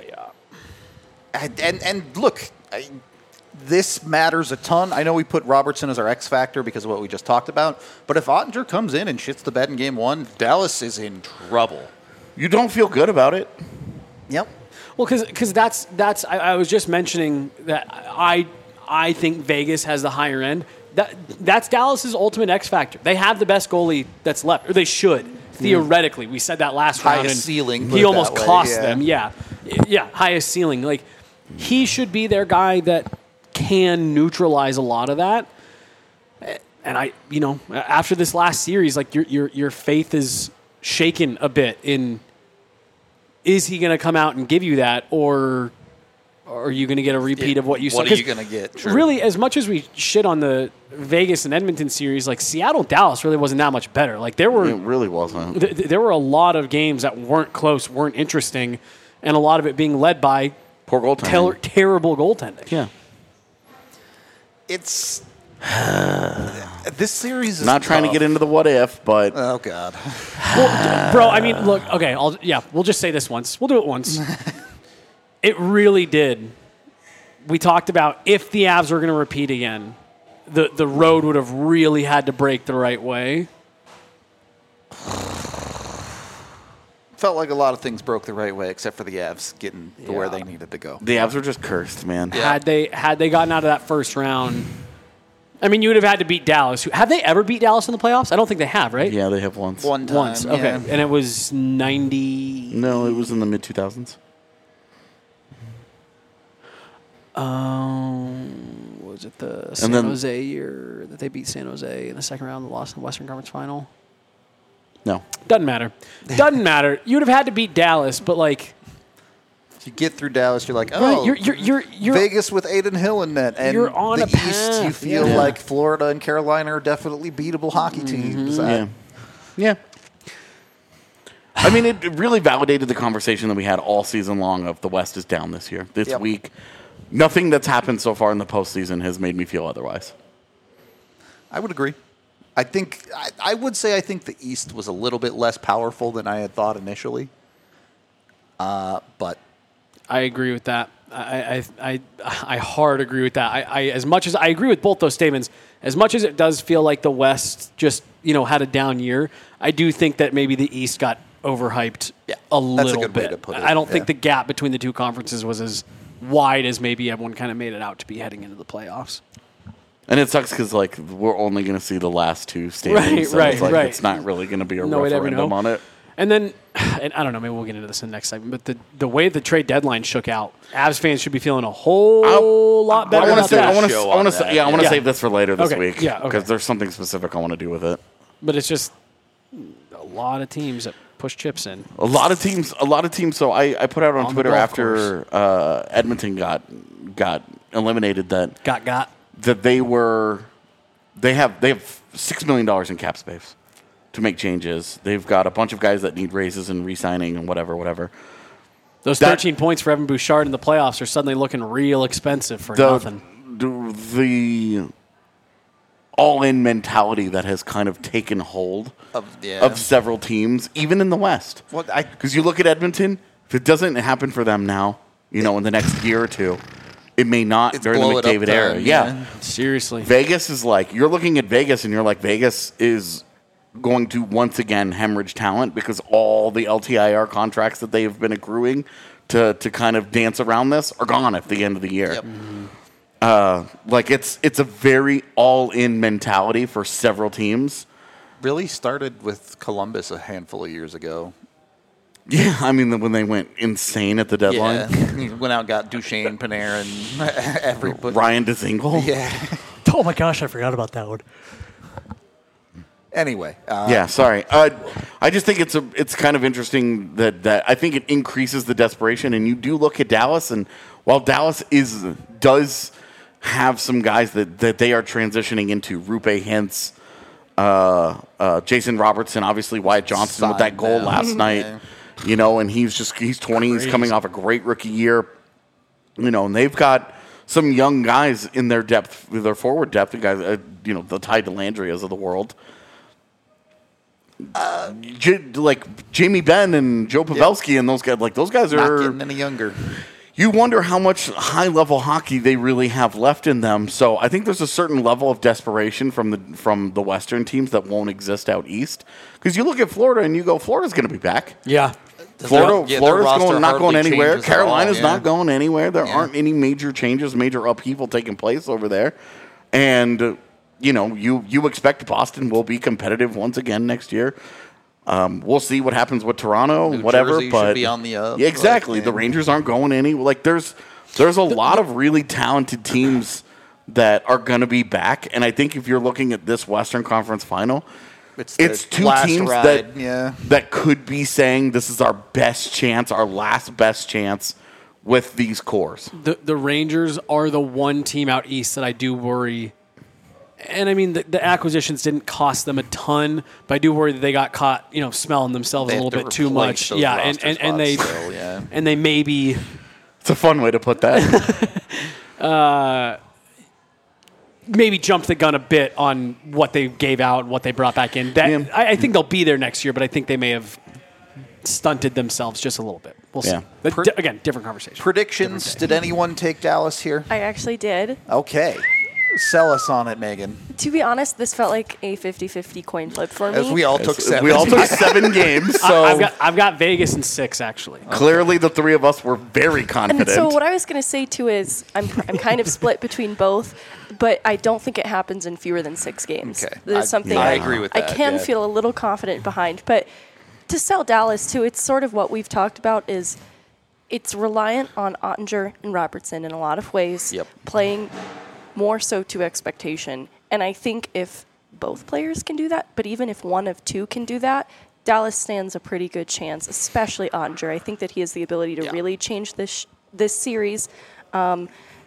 And look, this matters a ton. I know we put Robertson as our X factor because of what we just talked about. But if Ottinger comes in and shits the bed in Game 1, Dallas is in trouble. You don't feel good about it. Yep. Well, because that's I was just mentioning that I think Vegas has the higher end. That's Dallas's ultimate X factor. They have the best goalie that's left, or they should theoretically. We said that last round. Highest And ceiling, put He it almost that way, cost yeah. them. Yeah, highest ceiling. Like he should be their guy that can neutralize a lot of that. And after this last series, like your faith is shaken a bit in. Is he going to come out and give you that, or are you going to get a repeat of what you saw? What are you going to get? Sure. Really, as much as we shit on the Vegas and Edmonton series, like Seattle-Dallas really wasn't that much better. Like It really wasn't. there were a lot of games that weren't close, weren't interesting, and a lot of it being led by Poor goaltending. terrible goaltending. Yeah. It's this series is Not trying to tough. get into the what if, but Oh God. Well, bro, I mean, look, okay, we'll just say this once. We'll do it once. It really did. We talked about if the Avs were going to repeat again, the road would have really had to break the right way. Felt like a lot of things broke the right way, except for the Avs getting to where they needed to go. the Avs were just cursed, man. Yeah. Had they gotten out of that first round, I mean, you would have had to beat Dallas. Have they ever beat Dallas in the playoffs? I don't think they have, right? Yeah, they have once. One time, Once, okay, yeah. and it was 90. No, it was in the mid 2000s. Was it the And San then- Jose year that they beat San Jose in the second round and lost in the Western Conference Final? No. Doesn't matter. Doesn't matter. You would have had to beat Dallas, but like, If you get through Dallas, you're like, oh, right, you're Vegas with Aiden Hill in net, and You're on the a East, you path, feel yeah. like Florida and Carolina are definitely beatable hockey teams. Yeah. Yeah. I mean, it really validated the conversation that we had all season long of the West is down this year. This Yep. week, nothing that's happened so far in the postseason has made me feel otherwise. I would agree. I think I would say I think the East was a little bit less powerful than I had thought initially. But I agree with that. I hard agree with that. I as much as I agree with both those statements, as much as it does feel like the West just had a down year, I do think that maybe the East got overhyped Yeah, a that's a little good bit. way to put it, I don't think yeah. the gap between the two conferences was as wide as maybe everyone kind of made it out to be heading into the playoffs. And it sucks because, like, we're only going to see the last two standings. Right, so it's like right. It's not really going to be a No way to ever referendum know. on it. And then, and I don't know, maybe we'll get into this in the next segment, but the way the trade deadline shook out, Avs fans should be feeling a whole lot better I want about to that. show on that. I want to Yeah. save this for later this Okay, week. yeah, okay. Because there's something specific I want to do with it. But it's just a lot of teams that push chips in. A lot of teams. So I put out on the Twitter golf after Edmonton got eliminated that Got. they have $6 million in cap space to make changes. They've got a bunch of guys that need raises and re-signing and whatever. Those That- 13 points for Evan Bouchard in the playoffs are suddenly looking real expensive for nothing. The all-in mentality that has kind of taken hold of several teams, even in the West. Well, Because you look at Edmonton, if it doesn't happen for them now, in the next year or two, it may not It's during the blow it up McDavid era. time, Yeah. yeah. Seriously. Vegas is like, you're looking at Vegas and you're like, Vegas is going to once again hemorrhage talent because all the LTIR contracts that they have been accruing to kind of dance around this are gone at the end of the year. Yep. Like it's a very all-in mentality for several teams. Really started with Columbus a handful of years ago. Yeah, I mean when they went insane at the deadline. Yeah, he went out and got Duchesne, Panarin, and everybody. Ryan Dzingel. Yeah. Oh my gosh, I forgot about that one. Anyway. Yeah, sorry. I just think it's kind of interesting that I think it increases the desperation. And you do look at Dallas, and while Dallas does have some guys that they are transitioning into, Rupe Hintz, Jason Robertson, obviously Wyatt Johnson with that goal last night. Yeah. You know, and he's 20. He's coming off a great rookie year. You know, and they've got some young guys in their depth, their forward depth, the guys, the Ty Dellandrias of the world. Like Jamie Benn and Joe Pavelski and those guys Not are getting any younger. You wonder how much high-level hockey they really have left in them. So I think there's a certain level of desperation from the Western teams that won't exist out east. Because you look at Florida and you go, Florida's going to be back. Yeah. Florida's not going anywhere. Carolina's yeah. not going anywhere. There aren't any major changes, major upheaval taking place over there. And you expect Boston will be competitive once again next year. We'll see what happens with Toronto, New whatever. Jersey but should be on the up. Yeah, exactly. The Rangers aren't going any. Like there's a lot of really talented teams that are going to be back, and I think if you're looking at this Western Conference Final, it's two teams that could be saying this is our best chance, our last best chance with these cores. The Rangers are the one team out east that I do worry. And I mean, the acquisitions didn't cost them a ton, but I do worry that they got caught, smelling themselves a little bit too much. Yeah, and they maybe. It's a fun way to put that. Maybe jumped the gun a bit on what they gave out and what they brought back in. I think they'll be there next year, but I think they may have stunted themselves just a little bit. We'll see. But again, different conversation. Predictions. Did anyone take Dallas here? I actually did. Okay. Sell us on it, Megan. To be honest, this felt like a 50-50 coin flip for me. As we all took 7. We all took 7 games. So I've got Vegas in 6, actually. Clearly, the three of us were very confident. And so what I was going to say, too, is I'm kind of split between both, but I don't think it happens in fewer than 6 games. Okay. There's something I agree with that. I can feel a little confident behind. But to sell Dallas, too, it's sort of what we've talked about is it's reliant on Ottinger and Robertson in a lot of ways, playing more so to expectation. And I think if both players can do that, but even if one of two can do that, Dallas stands a pretty good chance, especially Ottinger. I think that he has the ability to really change this series. And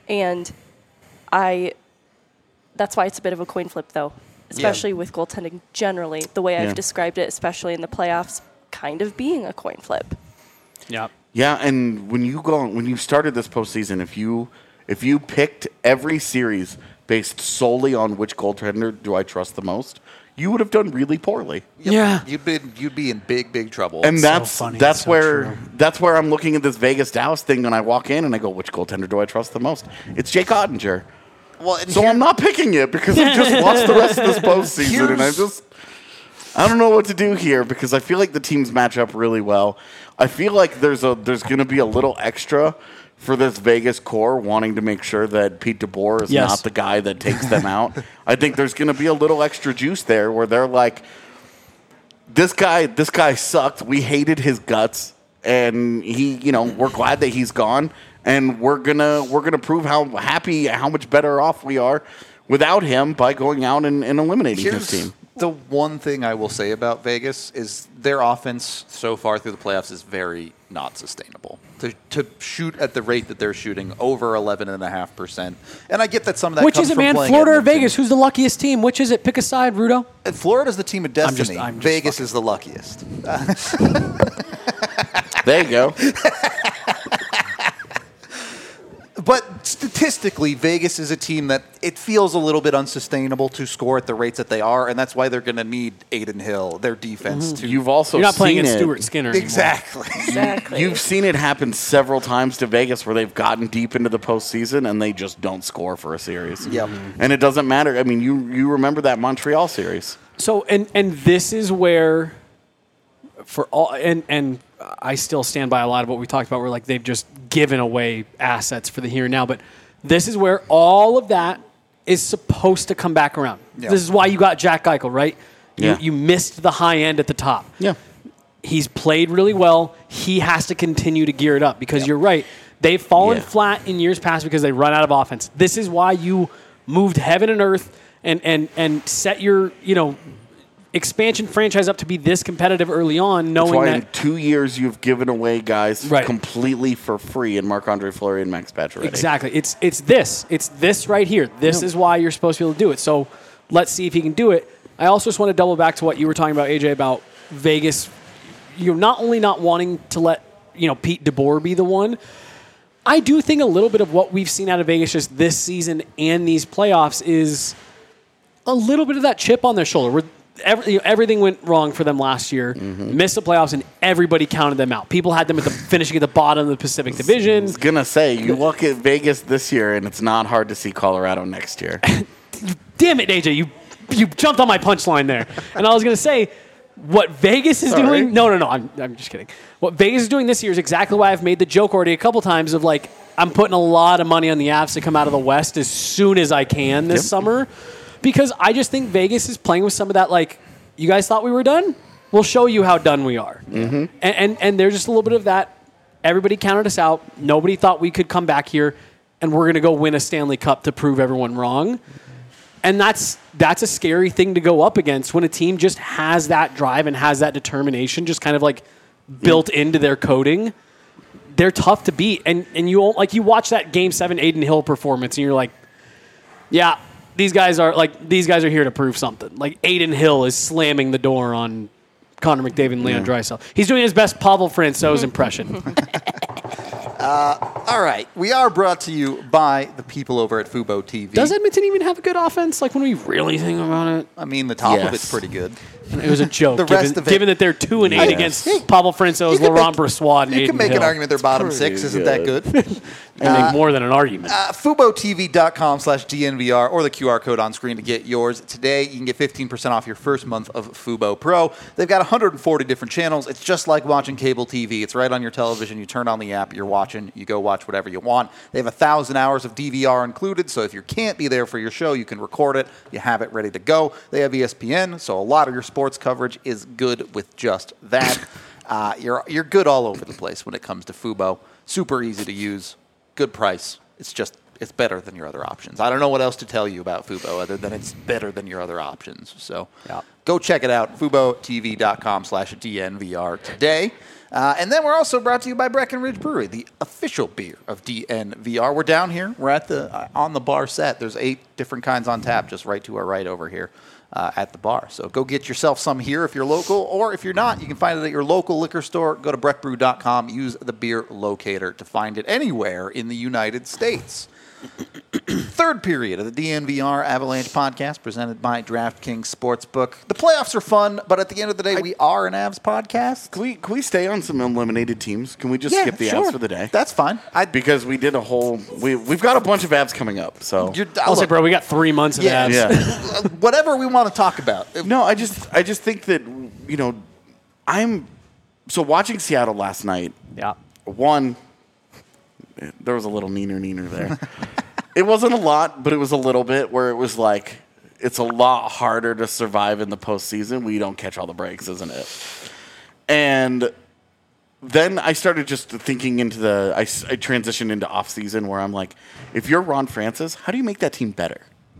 that's why it's a bit of a coin flip, though, especially with goaltending generally, the way I've described it, especially in the playoffs, kind of being a coin flip. Yeah. Yeah, and when you started this postseason, if you picked every series based solely on which goaltender do I trust the most, you would have done really poorly. Yeah, you'd be in big trouble. And that's so where I'm looking at this Vegas Dallas thing, and I walk in and I go, which goaltender do I trust the most? It's Jake Ottinger. Well, so I'm not picking it because I just watched the rest of this postseason, and I don't know what to do here because I feel like the teams match up really well. I feel like there's going to be a little extra for this Vegas core wanting to make sure that Pete DeBoer is not the guy that takes them out. I think there's going to be a little extra juice there where they're like, this guy sucked. We hated his guts, and we're glad that he's gone, and we're gonna prove how much better off we are without him by going out and eliminating his team. The one thing I will say about Vegas is their offense so far through the playoffs is very not sustainable. To shoot at the rate that they're shooting, over 11.5%. And I get that some of that Which comes is it, from man? playing Florida or Edmonton. Vegas? Who's the luckiest team? Which is it? Pick a side, Rudo. Florida's the team of destiny. I'm just Vegas is the luckiest. There you go. But statistically, Vegas is a team that it feels a little bit unsustainable to score at the rates that they are, and that's why they're going to need Aiden Hill, their defense. To You've also You're not playing seen against it. Stuart Skinner anymore. Exactly. You've seen it happen several times to Vegas where they've gotten deep into the postseason and they just don't score for a series. Yep. And it doesn't matter. I mean, you remember that Montreal series. So and this is where for all and I still stand by a lot of what we talked about where like they've just given away assets for the here and now, but This is where all of that is supposed to come back around. Yeah. This is why you got Jack Eichel, right? Yeah. You missed the high end at the top. Yeah. He's played really well. He has to continue to gear it up because you're right. They've fallen flat in years past because they run out of offense. This is why you moved heaven and earth and set your, expansion franchise up to be this competitive early on, knowing That's why that in 2 years you've given away guys Right. completely for free in Marc-Andre Fleury and Max Pacioretty. exactly. It's this right here. This is why you're supposed to be able to do it. So let's see if he can do it. I also just want to double back to what you were talking about, AJ, about Vegas. You're not only not wanting to let Pete DeBoer be the one. I do think a little bit of what we've seen out of Vegas just this season and these playoffs is a little bit of that chip on their shoulder. Where everything went wrong for them last year, missed the playoffs, and everybody counted them out. People had them finishing at the bottom of the Pacific Division. I was going to say, you look at Vegas this year, and it's not hard to see Colorado next year. Damn it, AJ, you jumped on my punchline there. And I was going to say, what Vegas is doing... No, I'm just kidding. What Vegas is doing this year is exactly why I've made the joke already a couple times of, I'm putting a lot of money on the Avs to come out of the West as soon as I can this summer. Because I just think Vegas is playing with some of that, you guys thought we were done? We'll show you how done we are. Mm-hmm. And there's just a little bit of that. Everybody counted us out. Nobody thought we could come back here, and we're going to go win a Stanley Cup to prove everyone wrong. And that's a scary thing to go up against when a team just has that drive and has that determination just kind of built into their coding. They're tough to beat. And you watch that Game 7 Adin Hill performance, and you're like, yeah, these guys are here to prove something. Adin Hill is slamming the door on Connor McDavid and Leon Draisaitl. He's doing his best Pavel Francouz impression. All right. We are brought to you by the people over at Fubo TV. Does Edmonton even have a good offense? When we really think about it? I mean, the top of Yes. it's pretty good. It was a joke. The rest of it- given that they're 2-8 against Pavel Francouz, You can Laurent make- Brossoit, and You Adin can make Hill. an argument their bottom pretty six isn't that good. I make more than an argument. FuboTV.com/DNVR or the QR code on screen to get yours. Today, you can get 15% off your first month of Fubo Pro. They've got 140 different channels. It's just like watching cable TV. It's right on your television. You turn on the app, you're watching, you go watch whatever you want. They have 1,000 hours of DVR included, so if you can't be there for your show, you can record it. You have it ready to go. They have ESPN, so a lot of your sports coverage is good with just that. You're good all over the place when it comes to Fubo. Super easy to use. Good price. It's better than your other options. I don't know what else to tell you about Fubo other than it's better than your other options. So go check it out, FuboTV.com/DNVR today. And then we're also brought to you by Breckenridge Brewery, the official beer of DNVR. We're down here. We're at on the bar set. There's 8 different kinds on tap just right to our right over here. At the bar. So go get yourself some here if you're local, or if you're not, you can find it at your local liquor store. Go to breckbrew.com, use the beer locator to find it anywhere in the United States. Third period of the DNVR Avalanche podcast presented by DraftKings Sportsbook. The playoffs are fun, but at the end of the day, we are an Avs podcast. Can we stay on some eliminated teams? Can we just skip the Avs for the day? That's fine. Because we did a whole... We've got a bunch of Avs coming up, so... I'll say, bro, we got 3 months of Yeah. Avs. Yeah. Whatever we want to talk about. No, I just think that, I'm... So watching Seattle last night, Yeah. one, there was a little neener there. It wasn't a lot, but it was a little bit where it was it's a lot harder to survive in the postseason when you don't catch all the breaks, isn't it? And then I started just thinking into I transitioned into off season where I'm like, if you're Ron Francis, how do you make that team better?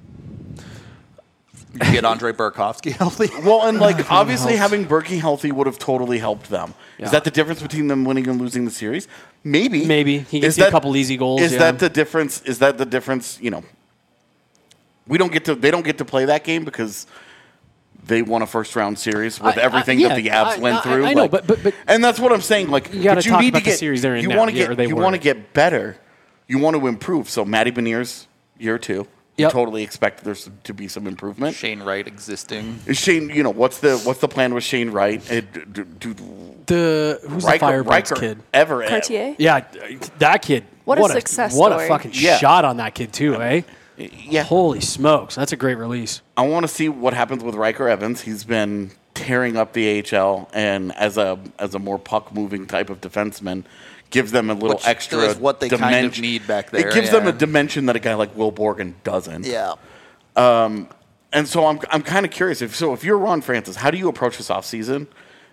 You get Andre Burakovsky healthy. Well, and obviously having Berkey healthy would have totally helped them. Yeah. Is that the difference between them winning and losing the series? Maybe. He gets you a couple easy goals. Is that the difference? Is that the difference? They don't get to play that game because they won a first round series with everything that the Avs went through. I know, but and that's what I'm saying. you gotta talk need about to the get series they're in you now. want to Yeah, get or they you were. want to get better. You want to improve. So Matty Beniers, year 2. Yep. Totally expect there to be some improvement. Shane Wright existing. Is Shane, what's the plan with Shane Wright? Who's the Firebirds kid? Everett. Cartier? Yeah, that kid. What a success What a story. fucking Yeah. shot on that kid, too, eh? Yeah. Holy smokes. That's a great release. I want to see what happens with Riker Evans. He's been tearing up the AHL, and as a more puck moving type of defenseman, gives them a little Which extra is what they dimension. kind of need back there. It gives them yeah. a dimension that a guy like Will Borgen doesn't. Yeah. And so I'm kind of curious. If you're Ron Francis, how do you approach this offseason?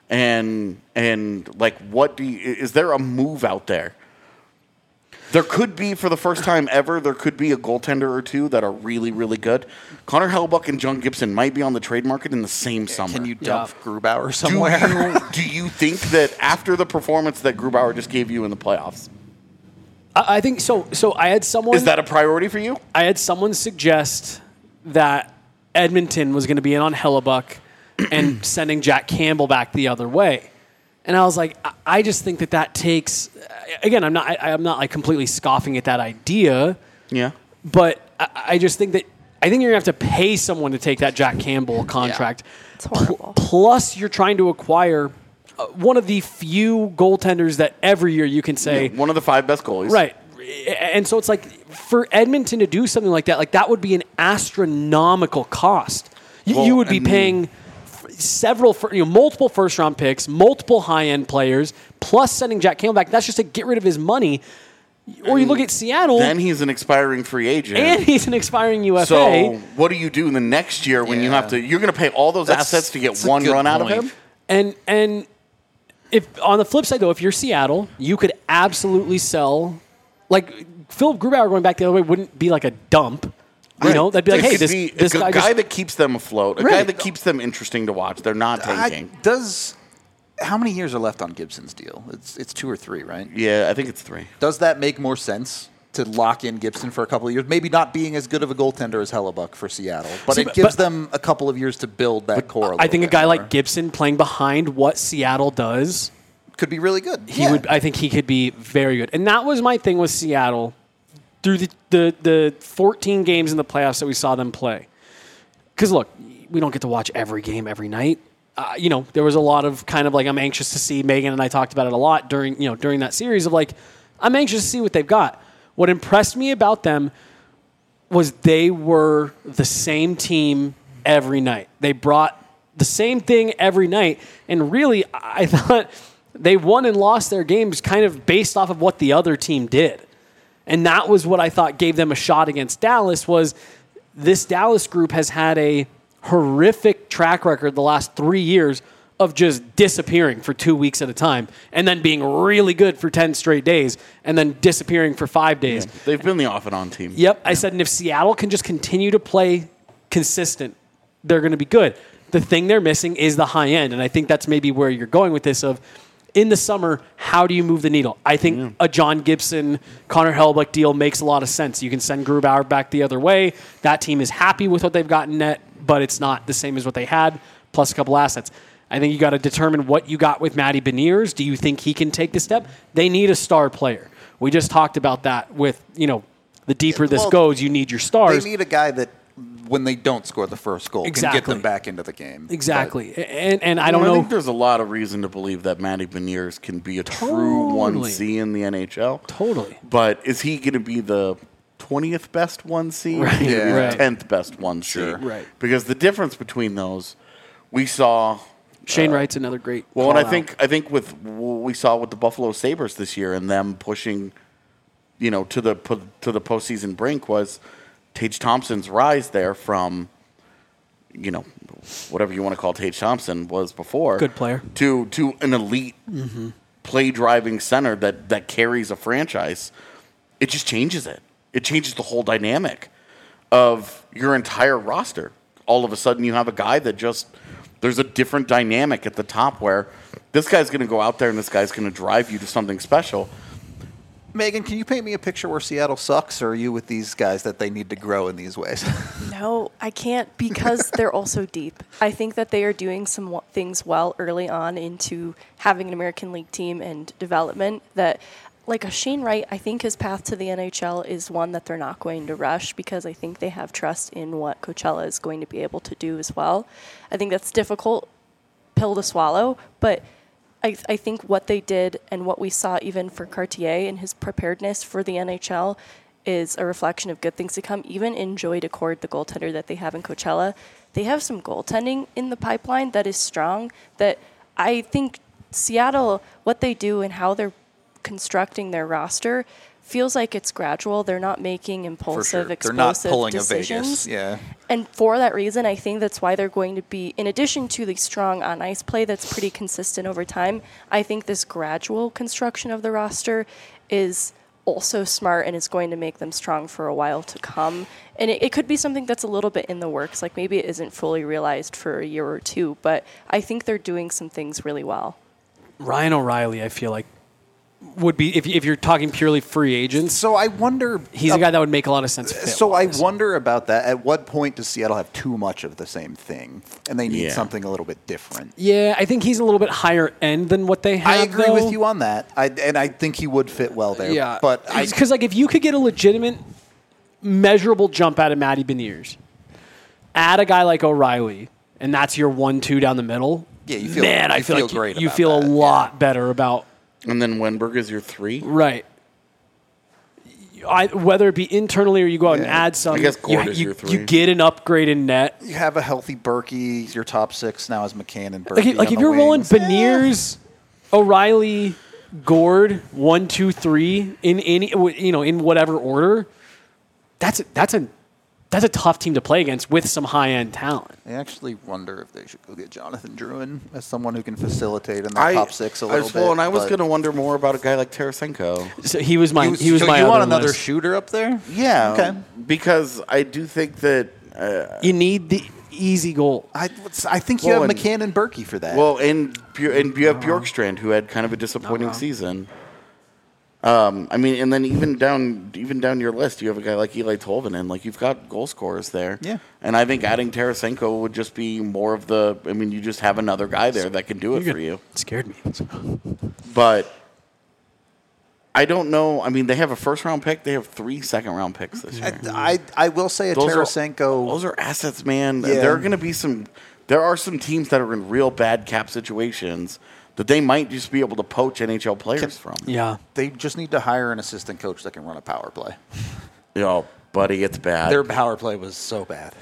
And like, is there a move out there? There could be, for the first time ever, there could be a goaltender or two that are really, really good. Connor Hellebuyck and John Gibson might be on the trade market in the same summer. Can you dump Grubauer somewhere? Do you think that after the performance that Grubauer just gave you in the playoffs, I think so. So I had someone. is that a priority for you? I had someone suggest that Edmonton was going to be in on Hellebuck and sending Jack Campbell back the other way. And I was like, I just think that takes. Again, I'm not like completely scoffing at that idea. Yeah. But I just think that you're going to have to pay someone to take that Jack Campbell contract. It's horrible. Plus, you're trying to acquire one of the few goaltenders that every year you can say One of the 5 best goalies. right. And so it's like for Edmonton to do something like that would be an astronomical cost. You would be paying multiple first-round picks, multiple high-end players, plus sending Jack Campbell back. That's just to get rid of his money. Or you look at Seattle. Then he's an expiring free agent. And he's an expiring UFA. So what do you do in the next year when you have to? You're going to pay all those assets to get one run out of him. And if on the flip side though, if you're Seattle, you could absolutely sell. Like Philip Grubauer going back the other way wouldn't be like a dump. You know, that'd be like, hey, this guy guy that keeps them afloat, a guy Right. that keeps them interesting to watch. They're not tanking. How many years are left on Gibson's deal? It's 2 or 3, right? Yeah, I think it's 3. Does that make more sense to lock in Gibson for a couple of years? Maybe not being as good of a goaltender as Hellebuck for Seattle, but it gives them a couple of years to build that core. I think a guy like Gibson playing behind what Seattle does could be really good. I think he could be very good. And that was my thing with Seattle through the 14 games in the playoffs that we saw them play. Because, look, we don't get to watch every game every night. There was a lot of kind of like I'm anxious to see. Megan and I talked about it a lot during that series of like I'm anxious to see what they've got. What impressed me about them was they were the same team every night. They brought the same thing every night. And really, I thought they won and lost their games kind of based off of what the other team did. And that was what I thought gave them a shot against Dallas was this Dallas group has had a horrific track record the last 3 years of just disappearing for 2 weeks at a time and then being really good for 10 straight days and then disappearing for 5 days. Yeah, they've been the off and on team. Yep. I said, and if Seattle can just continue to play consistent, they're going to be good. The thing they're missing is the high end. And I think that's maybe where you're going with this of in the summer, how do you move the needle? I think a John Gibson, Connor Hellebuyck deal makes a lot of sense. You can send Grubauer back the other way. That team is happy with what they've got in net, but it's not the same as what they had, plus a couple assets. I think you got to determine what you got with Matty Beniers. Do you think he can take the step? They need a star player. We just talked about that with, the deeper this goes, you need your stars. They need a guy that when they don't score the first goal can get them back into the game. Exactly. And I don't know. I think there's a lot of reason to believe that Matty Beniers can be a true 1C in the NHL. Totally. But is he going to be the 20th best 1C? Right. Yeah. Right. 10th best 1C? Sure. Right. Because the difference between those, we saw... Shane Wright's another great Well, and I call-out. think with what we saw with the Buffalo Sabres this year and them pushing, to the postseason brink was Tage Thompson's rise there from, whatever you want to call Tage Thompson was before. Good player. To an elite play-driving center that carries a franchise. It just changes it. It changes the whole dynamic of your entire roster. All of a sudden you have a guy that just... There's a different dynamic at the top where this guy's going to go out there and this guy's going to drive you to something special. Megan, can you paint me a picture where Seattle sucks, or are you with these guys that they need to grow in these ways? No, I can't because they're also deep. I think that they are doing some things well early on into having an American League team and development that, like a Shane Wright, I think his path to the NHL is one that they're not going to rush because I think they have trust in what Coachella is going to be able to do as well. I think that's a difficult pill to swallow, but I think what they did and what we saw even for Cartier and his preparedness for the NHL is a reflection of good things to come. Even in Joey Decord, the goaltender that they have in Coachella, they have some goaltending in the pipeline that is strong that I think Seattle, what they do and how they're constructing their roster feels like it's gradual. They're not making impulsive, They're explosive not pulling decisions. a Vegas. Yeah. And for that reason, I think that's why they're going to be, in addition to the strong on-ice play that's pretty consistent over time, I think this gradual construction of the roster is also smart and is going to make them strong for a while to come. And it could be something that's a little bit in the works. Like maybe it isn't fully realized for a year or two, but I think they're doing some things really well. Ryan O'Reilly, I feel like, would be, if you're talking purely free agents, So I wonder. he's a guy that would make a lot of sense. So I fit-wise. wonder about that. At what point does Seattle have too much of the same thing, and they need Yeah. something a little bit different? Yeah, I think he's a little bit higher end than what they have. I agree though. with you on that. I think he would fit well there. Yeah, but because like if you could get a legitimate, measurable jump out of Matty Beniers, add a guy like O'Reilly, and that's your 1-2 down the middle. Yeah, you feel- man, I you feel feel like great you about feel that, a lot better about And then Wenberg is your 3. right. Whether it be internally or you go out and Yeah. add some, I guess Gord is you, your 3. you get an upgrade in net. you have a healthy Berkey. Your top 6 now is McCann and Berkey. Like on if the you're rolling wings. Beniers, O'Reilly, Gord, 1, 2, 3 in any in whatever order, that's a tough team to play against with some high end talent. I actually wonder if they should go get Jonathan Druin as someone who can facilitate in the top 6 a little bit. Well, and I was but- going to wonder more about a guy like Tarasenko. So he was my he was so my you other want another list. shooter up there? Yeah. Okay. Because I do think that. You need the easy goal. I think you Well, have and- McCann and Berkey for that. Well, and you have Bjorkstrand, who had kind of a disappointing season. I mean, and then even down your list, you have a guy like Eli Tolvanen. Like you've got goal scorers there. Yeah. And I think adding Tarasenko would just be more of the. I mean, you just have another guy there that can do it for you. It scared me. But I don't know. I mean, they have a first-round pick. They have 3 second-round picks this year. I will say a Tarasenko. Those are assets, man. Yeah. There are going to be some. There are some teams that are in real bad cap situations that they might just be able to poach NHL players from. Yeah. They just need to hire an assistant coach that can run a power play. You know, buddy, it's bad. Their power play was so bad.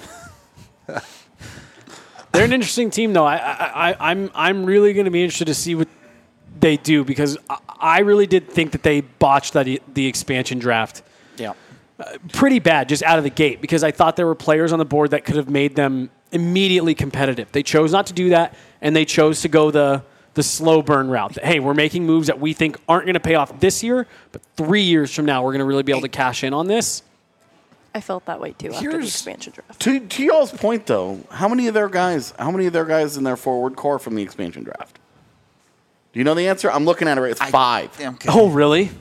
They're an interesting team, though. I'm really going to be interested to see what they do because I really did think that they botched the expansion draft Yeah. pretty bad just out of the gate because I thought there were players on the board that could have made them immediately competitive. They chose not to do that, and they chose to go the slow burn route. That, hey, we're making moves that we think aren't going to pay off this year, but 3 years from now we're going to really be able to cash in on this. I felt that way too after the expansion draft. To y'all's point, though, how many of their guys in their forward core from the expansion draft? Do you know the answer? I'm looking at it right. It's 5. Okay. Oh, really?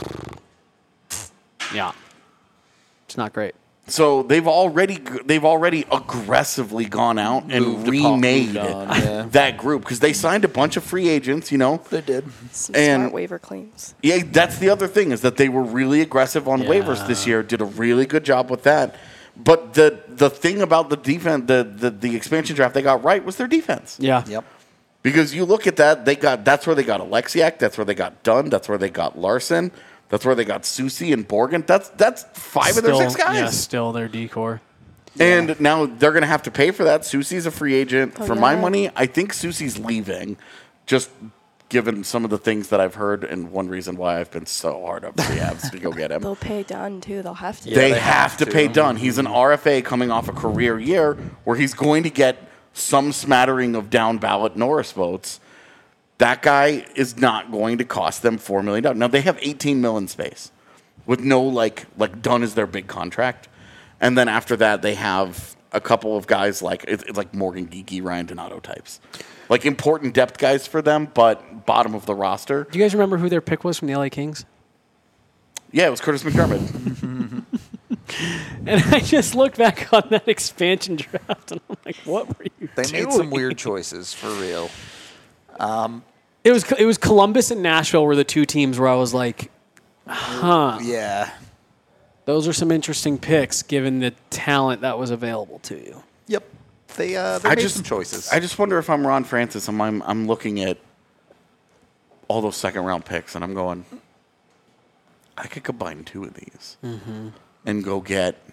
Yeah. It's not great. So they've already aggressively gone out and Moved remade on, yeah. that group because they signed a bunch of free agents. You know, They did. Some And- smart waiver claims. yeah, that's the other thing is that they were really aggressive on waivers this year. Did a really good job with that. But the thing about the defense, the expansion draft they got right was their defense. Yeah. Yep. Because you look at that, that's where they got Alexiak, that's where they got Dunn, that's where they got Larson, that's where they got Susie and Borgen. That's 5 of their 6 guys. Yeah, still their decor. And now they're going to have to pay for that. Susie's a free agent. Oh, For my yeah. money, I think Susie's leaving, just given some of the things that I've heard, and one reason why I've been so hard up the Avs to go get him. They'll pay Dunn too. They'll have to. They they have have to to. pay Dunn. He's an RFA coming off a career year where he's going to get some smattering of down ballot Norris votes. That guy is not going to cost them $4 million. Now they have $18 million space with no like Dunn is their big contract, and then after that they have a couple of guys like it's like Morgan Geeky, Ryan Donato types, like important depth guys for them, but bottom of the roster. Do you guys remember who their pick was from the LA Kings? Yeah, it was Curtis McDermott. And I just looked back on that expansion draft, and I'm like, what were you They doing? made some weird choices for real. It was Columbus and Nashville were the 2 teams where I was like, Yeah. those are some interesting picks given the talent that was available to you. Yep. They made some choices. I just wonder if I'm Ron Francis and I'm looking at all those second round picks and I'm going, I could combine 2 of these and go get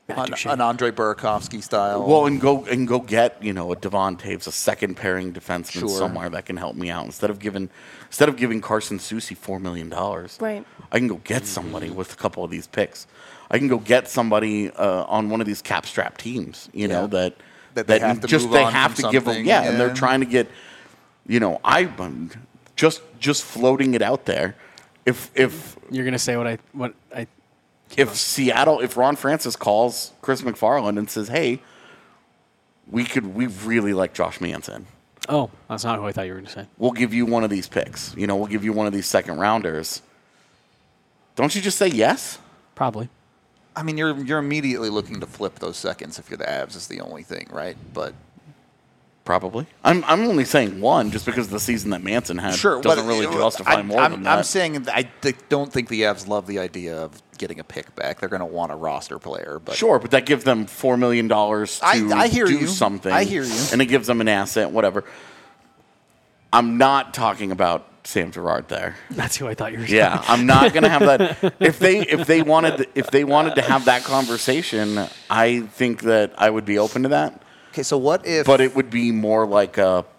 Matt Duchene. An Andre Burakovsky style. Well, and go get a Devon Taves, a second pairing defenseman Sure. somewhere that can help me out instead of giving Carson Soucy $4 million. Right. I can go get somebody with a couple of these picks. I can go get somebody on one of these cap strap teams. That they have to move on have from to give them. something, And they're trying to get. I'm just floating it out there. If You're gonna say what I if Ron Francis calls Chris McFarland and says, "Hey, we really like Josh Manson. Oh, that's not who I thought you were gonna say. We'll give you one of these picks. We'll give you one of these second rounders." Don't you just say yes? Probably. I mean, you're immediately looking to flip those seconds if you're the Avs is the only thing, right? But Probably. I'm only saying one just because the season that Manson had sure, doesn't but really justify more than that. I'm saying that don't think the Avs love the idea of getting a pick back. They're going to want a roster player. But Sure, but that gives them $4 million to I hear do you. something. I hear you. And it gives them an asset, whatever. I'm not talking about Sam Girard there. That's who I thought you were saying. Yeah, I'm not going to have that. If they wanted to have that conversation, I think that I would be open to that. okay, so what if? But it would be more like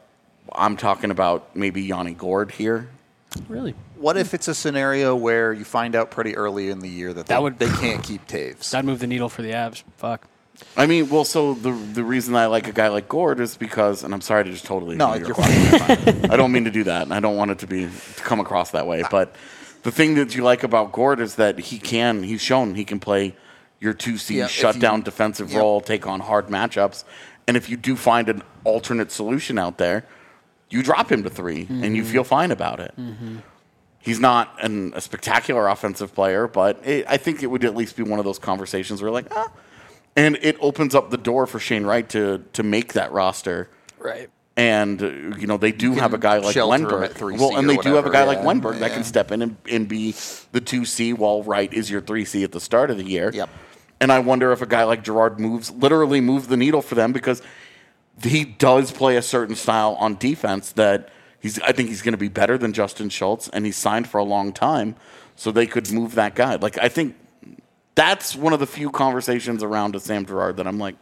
I'm talking about maybe Yanni Gord here. Really? What if it's a scenario where you find out pretty early in the year that they can't keep Taves? That'd move the needle for the Avs. Fuck. I mean, well, so the reason I like a guy like Gord is because, and I'm sorry to just totally No, ignore you're your fine. question. I don't mean to do that, and I don't want it to come across that way. But the thing that you like about Gord is that he's shown he can play your 2C Yeah, shutdown defensive role, take on hard matchups, and if you do find an alternate solution out there, you drop him to 3, and you feel fine about it. Mm-hmm. He's not a spectacular offensive player, but I think it would at least be one of those conversations where like, and it opens up the door for Shane Wright to make that roster. Right. And, they do have a guy like shelter him Wenberg. at 3C Well, and or they do have a whatever, guy like yeah. Wenberg that Yeah. can step in and be the 2C while Wright is your 3C at the start of the year. Yep. And I wonder if a guy like Girard literally moves the needle for them because he does play a certain style on defense that I think he's going to be better than Justin Schultz, and he's signed for a long time, so they could move that guy. Like, I think that's one of the few conversations around a Sam Girard that I'm like,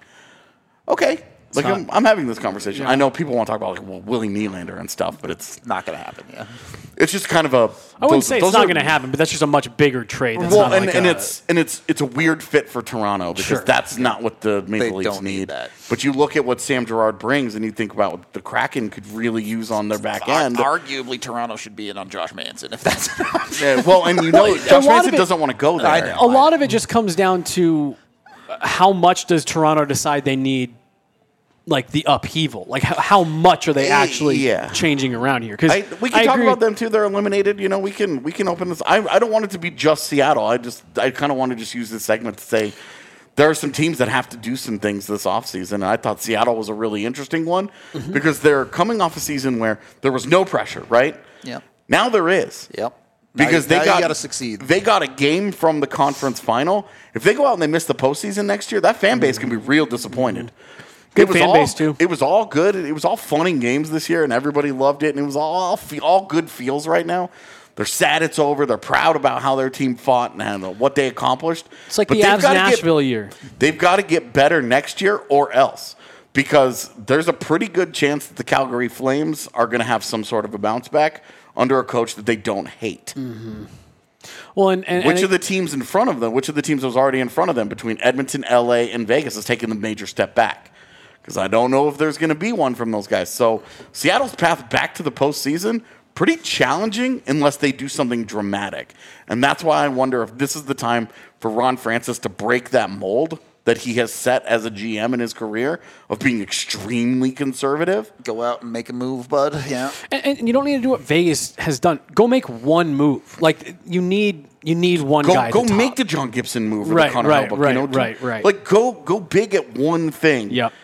okay. Like, I'm having this conversation. I know people want to talk about Willie Nylander and stuff, but it's Not going to happen. Yeah. it's just kind of a. I wouldn't say it's not going to happen, but that's just a much bigger trade. That's Well, not and, like and a- it's a weird fit for Toronto because Sure. that's not what the Maple Leafs don't need that. But you look at what Sam Girard brings, and you think about what the Kraken could really use on their back end. Arguably, Toronto should be in on Josh Manson if that's an option. Yeah, well, and Josh lot of Manson it- doesn't want to go there. I know. a lot of it just comes down to how much does Toronto decide they need, like the upheaval. Like how much are they actually Yeah. changing around here? Because We can talk about them too. They're eliminated. We can open this. I don't want it to be just Seattle. I kind of want to just use this segment to say there are some teams that have to do some things this offseason. And I thought Seattle was a really interesting one because they're coming off a season where there was no pressure, right? Yep. Now there is. Yep. Because now they you got to succeed. They got a game from the conference final. If they go out and they miss the postseason next year, that fan base can be real disappointed. Good fan base, too. It was all good. It was all fun and games this year, and everybody loved it. And it was all good feels right now. They're sad it's over. They're proud about how their team fought and what they accomplished. It's like But the they've Avs gotta Nashville year. They've got to get better next year or else. Because there's a pretty good chance that the Calgary Flames are going to have some sort of a bounce back under a coach that they don't hate. Well, and Which of the teams in front of them, which of the teams that was already in front of them between Edmonton, LA, and Vegas has taken a major step back? Because I don't know if there's going to be one from those guys. So Seattle's path back to the postseason, pretty challenging unless they do something dramatic. And that's why I wonder if this is the time for Ron Francis to break that mold that he has set as a GM in his career of being extremely conservative. Go out and make a move, bud. Yeah. and you don't need to do what Vegas has done. Go make one move. Like you need one guy. Go to make top. the John Gibson move or Right, the Connor right, Hellebuyck, right, right. Like go big at one thing. Yep.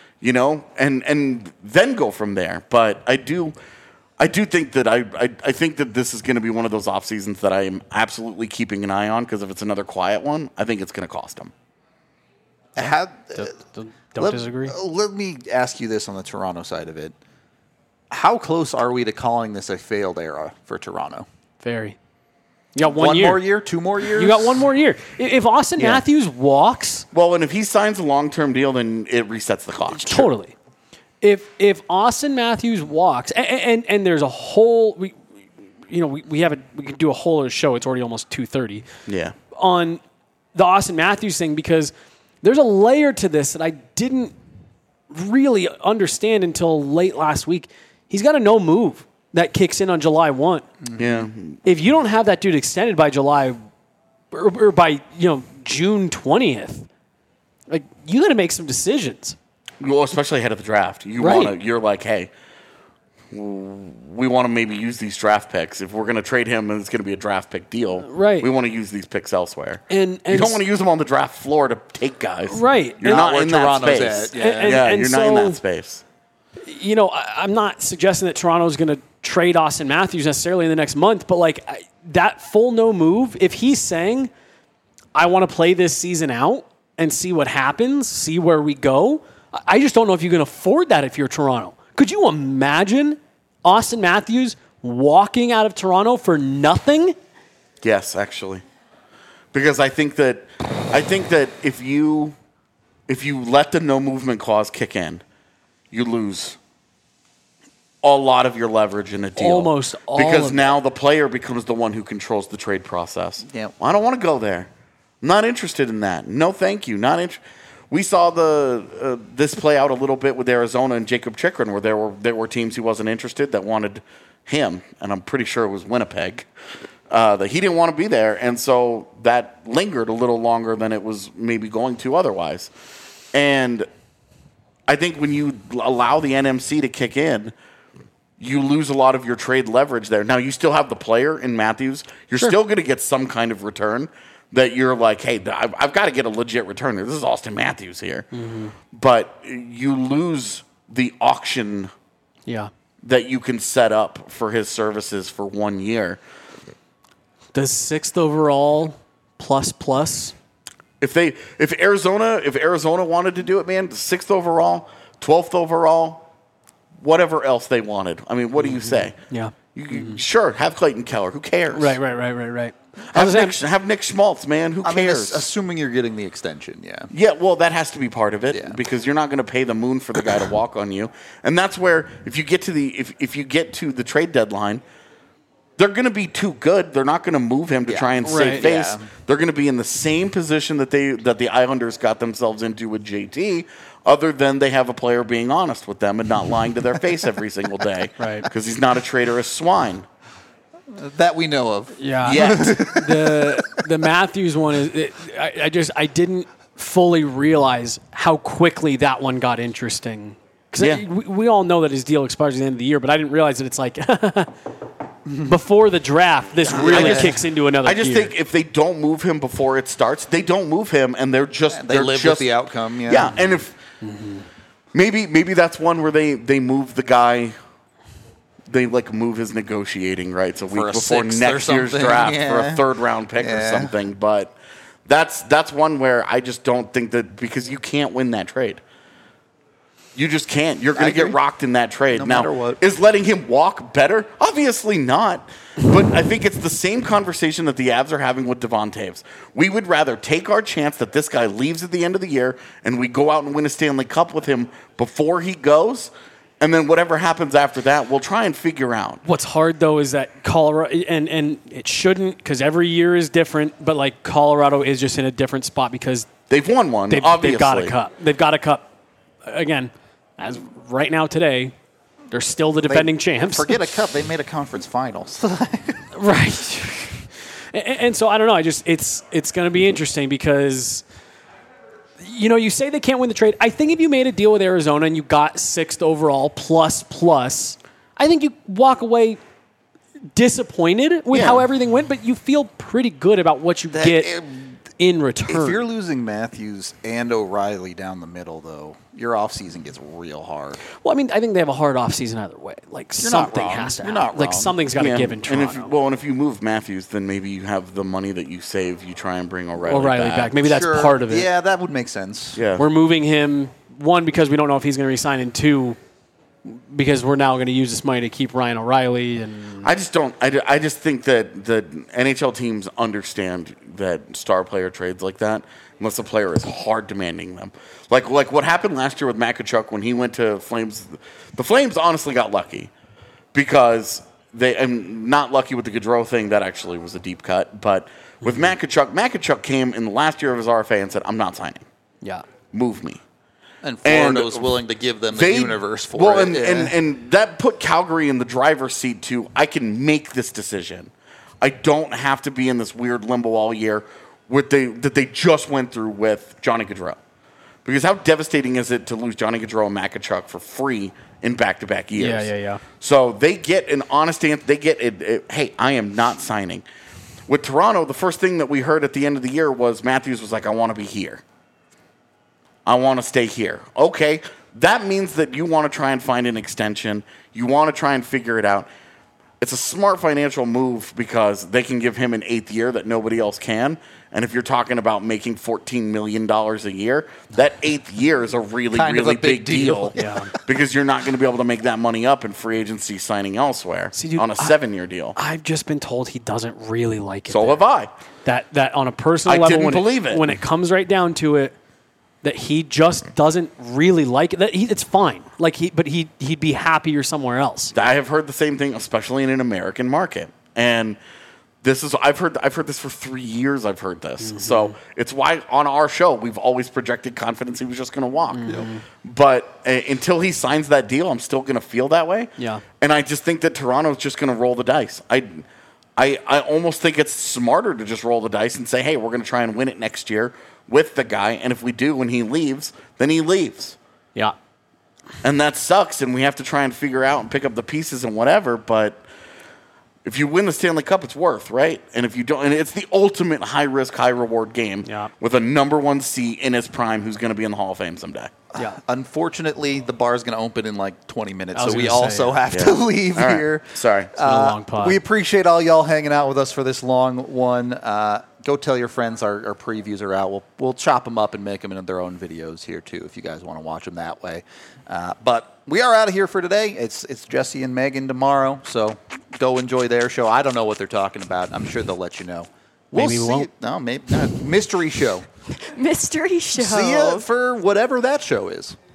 And then go from there. But I do think that I think that this is going to be one of those off seasons that I am absolutely keeping an eye on because if it's another quiet one, I think it's going to cost them. Don't disagree. Let me ask you this on the Toronto side of it. How close are we to calling this a failed era for Toronto? Very. You got one One year. more year? 2 more years? You got one more year. If Austin Matthews walks, Well, and if he signs a long-term deal, then it resets the clock. Totally. If Austin Matthews walks, and there's a whole we can do a whole show. It's already almost 2:30. Yeah. On the Austin Matthews thing, because there's a layer to this that I didn't really understand until late last week. He's got a no move that kicks in on July 1. Yeah. If you don't have that dude extended by July or by June 20th, like you got to make some decisions. Well, especially ahead of the draft. You're like, hey, we want to maybe use these draft picks. If we're going to trade him and it's going to be a draft pick deal, right? We want to use these picks elsewhere. And you don't want to use them on the draft floor to take guys. Right. You're not in that space. And you're not in that space. I'm not suggesting that Toronto's going to trade Austin Matthews necessarily in the next month, but like that full no move, if he's saying, I want to play this season out and see what happens, see where we go, I just don't know if you can afford that if you're Toronto. Could you imagine Austin Matthews walking out of Toronto for nothing? Yes, actually. Because I think that if you let the no movement clause kick in, you lose a lot of your leverage in a deal. Almost all because of now the player becomes the one who controls the trade process. Yeah. I don't want to go there. I'm not interested in that. No, thank you. We saw this play out a little bit with Arizona and Jacob Chikrin, where there were teams he wasn't interested that wanted him, and I'm pretty sure it was Winnipeg, that he didn't want to be there, and so that lingered a little longer than it was maybe going to otherwise. And I think when you allow the NMC to kick in, you lose a lot of your trade leverage there. Now, you still have the player in Matthews. You're still going to get some kind of return that you're like, hey, I've got to get a legit return here. This is Austin Matthews here. Mm-hmm. But you lose the auction that you can set up for his services for 1 year. Does 6th overall plus? If Arizona wanted to do it, man, 6th overall, 12th overall, whatever else they wanted. I mean, what do you say? Yeah. Sure, have Clayton Keller. Who cares? Right. Have Nick Schmaltz, man. Who cares? I mean, assuming you're getting the extension, yeah. Yeah, well, that has to be part of it because you're not going to pay the moon for the guy to walk on you, and that's where if you get to the trade deadline, they're going to be too good. They're not going to move him to try and save face. Yeah. They're going to be in the same position that the Islanders got themselves into with JT. Other than they have a player being honest with them and not lying to their face every single day, right? Because he's not a traitorous swine. That we know of. Yeah. Yet. The Matthews one is. I didn't fully realize how quickly that one got interesting. Because we all know that his deal expires at the end of the year, but I didn't realize that it's like before the draft, this really kicks into another gear. I just think if they don't move him before it starts, they don't move him, and they live with the outcome. Yeah. Yeah, and if maybe that's one where they move the guy. They move his negotiating rights a week before next year's draft for a third round pick or something. But that's one where I just don't think that because you can't win that trade. You just can't. You're going to get rocked in that trade. No now, matter what. Is letting him walk better? Obviously not. But I think it's the same conversation that the Avs are having with Devon Toews. We would rather take our chance that this guy leaves at the end of the year and we go out and win a Stanley Cup with him before he goes. And then whatever happens after that, we'll try and figure out. What's hard, though, is that Colorado, and it shouldn't because every year is different, but Colorado is just in a different spot because they've won one, obviously. They've got a cup. They've got a cup. Again, as right now today, they're still the defending champs. Forget a cup. They made a conference finals. Right. And so, I don't know. It's going to be interesting because... you say they can't win the trade. I think if you made a deal with Arizona and you got 6th overall plus, I think you walk away disappointed with how everything went, but you feel pretty good about what you get in return. If you're losing Matthews and O'Reilly down the middle, though, your offseason gets real hard. Well, I mean, I think they have a hard offseason either way. Something has to happen. You're not wrong. Something's got to give in Toronto. And if you move Matthews, then maybe you have the money that you save. You try and bring O'Reilly back. Maybe that's part of it. Yeah, that would make sense. Yeah. We're moving him, one, because we don't know if he's going to resign, and two, because we're now going to use this money to keep Ryan O'Reilly. And I just don't. I just think that the NHL teams understand that star player trades like that, unless the player is hard demanding them. Like what happened last year with Makachuk when he went to Flames. The Flames honestly got lucky because I'm not lucky with the Gaudreau thing. That actually was a deep cut. But with Makachuk came in the last year of his RFA and said, "I'm not signing. yeah, Move me." And Florida was willing to give them the universe for it. And that put Calgary in the driver's seat too. I can make this decision. I don't have to be in this weird limbo all year that they just went through with Johnny Gaudreau. Because how devastating is it to lose Johnny Gaudreau and Makachuk for free in back-to-back years? Yeah. So they get an honest answer. They get hey, I am not signing. With Toronto, the first thing that we heard at the end of the year was Matthews was like, I want to be here. I want to stay here. Okay, that means that you want to try and find an extension. You want to try and figure it out. It's a smart financial move because they can give him an 8th year that nobody else can. And if you're talking about making $14 million a year, that 8th year is a really big deal. Yeah. Because you're not going to be able to make that money up in free agency signing elsewhere on a 7-year deal. I've just been told he doesn't really like it. So have I. That on a personal I level, didn't believe it. When it comes right down to it, that he just doesn't really like it. It's fine. But he'd be happier somewhere else. I have heard the same thing, especially in an American market. And I've heard this for 3 years. I've heard this, Mm-hmm. so it's why on our show we've always projected confidence he was just going to walk. Mm-hmm. But until he signs that deal, I'm still going to feel that way. Yeah. And I just think that Toronto's just going to roll the dice. I almost think it's smarter to just roll the dice and say, hey, we're going to try and win it next year with the guy. And if we do, when he leaves, then he leaves. Yeah. And that sucks. And we have to try and figure out and pick up the pieces and whatever. But if you win the Stanley Cup, it's worth, right? And if you don't, and it's the ultimate high-risk, high-reward game with a number 1 seed in his prime who's going to be in the Hall of Fame someday. Yeah. Unfortunately, the bar is going to open in like 20 minutes, I was so we gonna say, also have to leave All right. here. Sorry. It's been a long pod. We appreciate all y'all hanging out with us for this long one. Go tell your friends our previews are out. We'll chop them up and make them into their own videos here too, if you guys want to watch them that way. But we are out of here for today. It's Jesse and Megan tomorrow, so go enjoy their show. I don't know what they're talking about. I'm sure they'll let you know. Maybe we see. won't. No, maybe not. Mystery show. Mystery show. See ya for whatever that show is.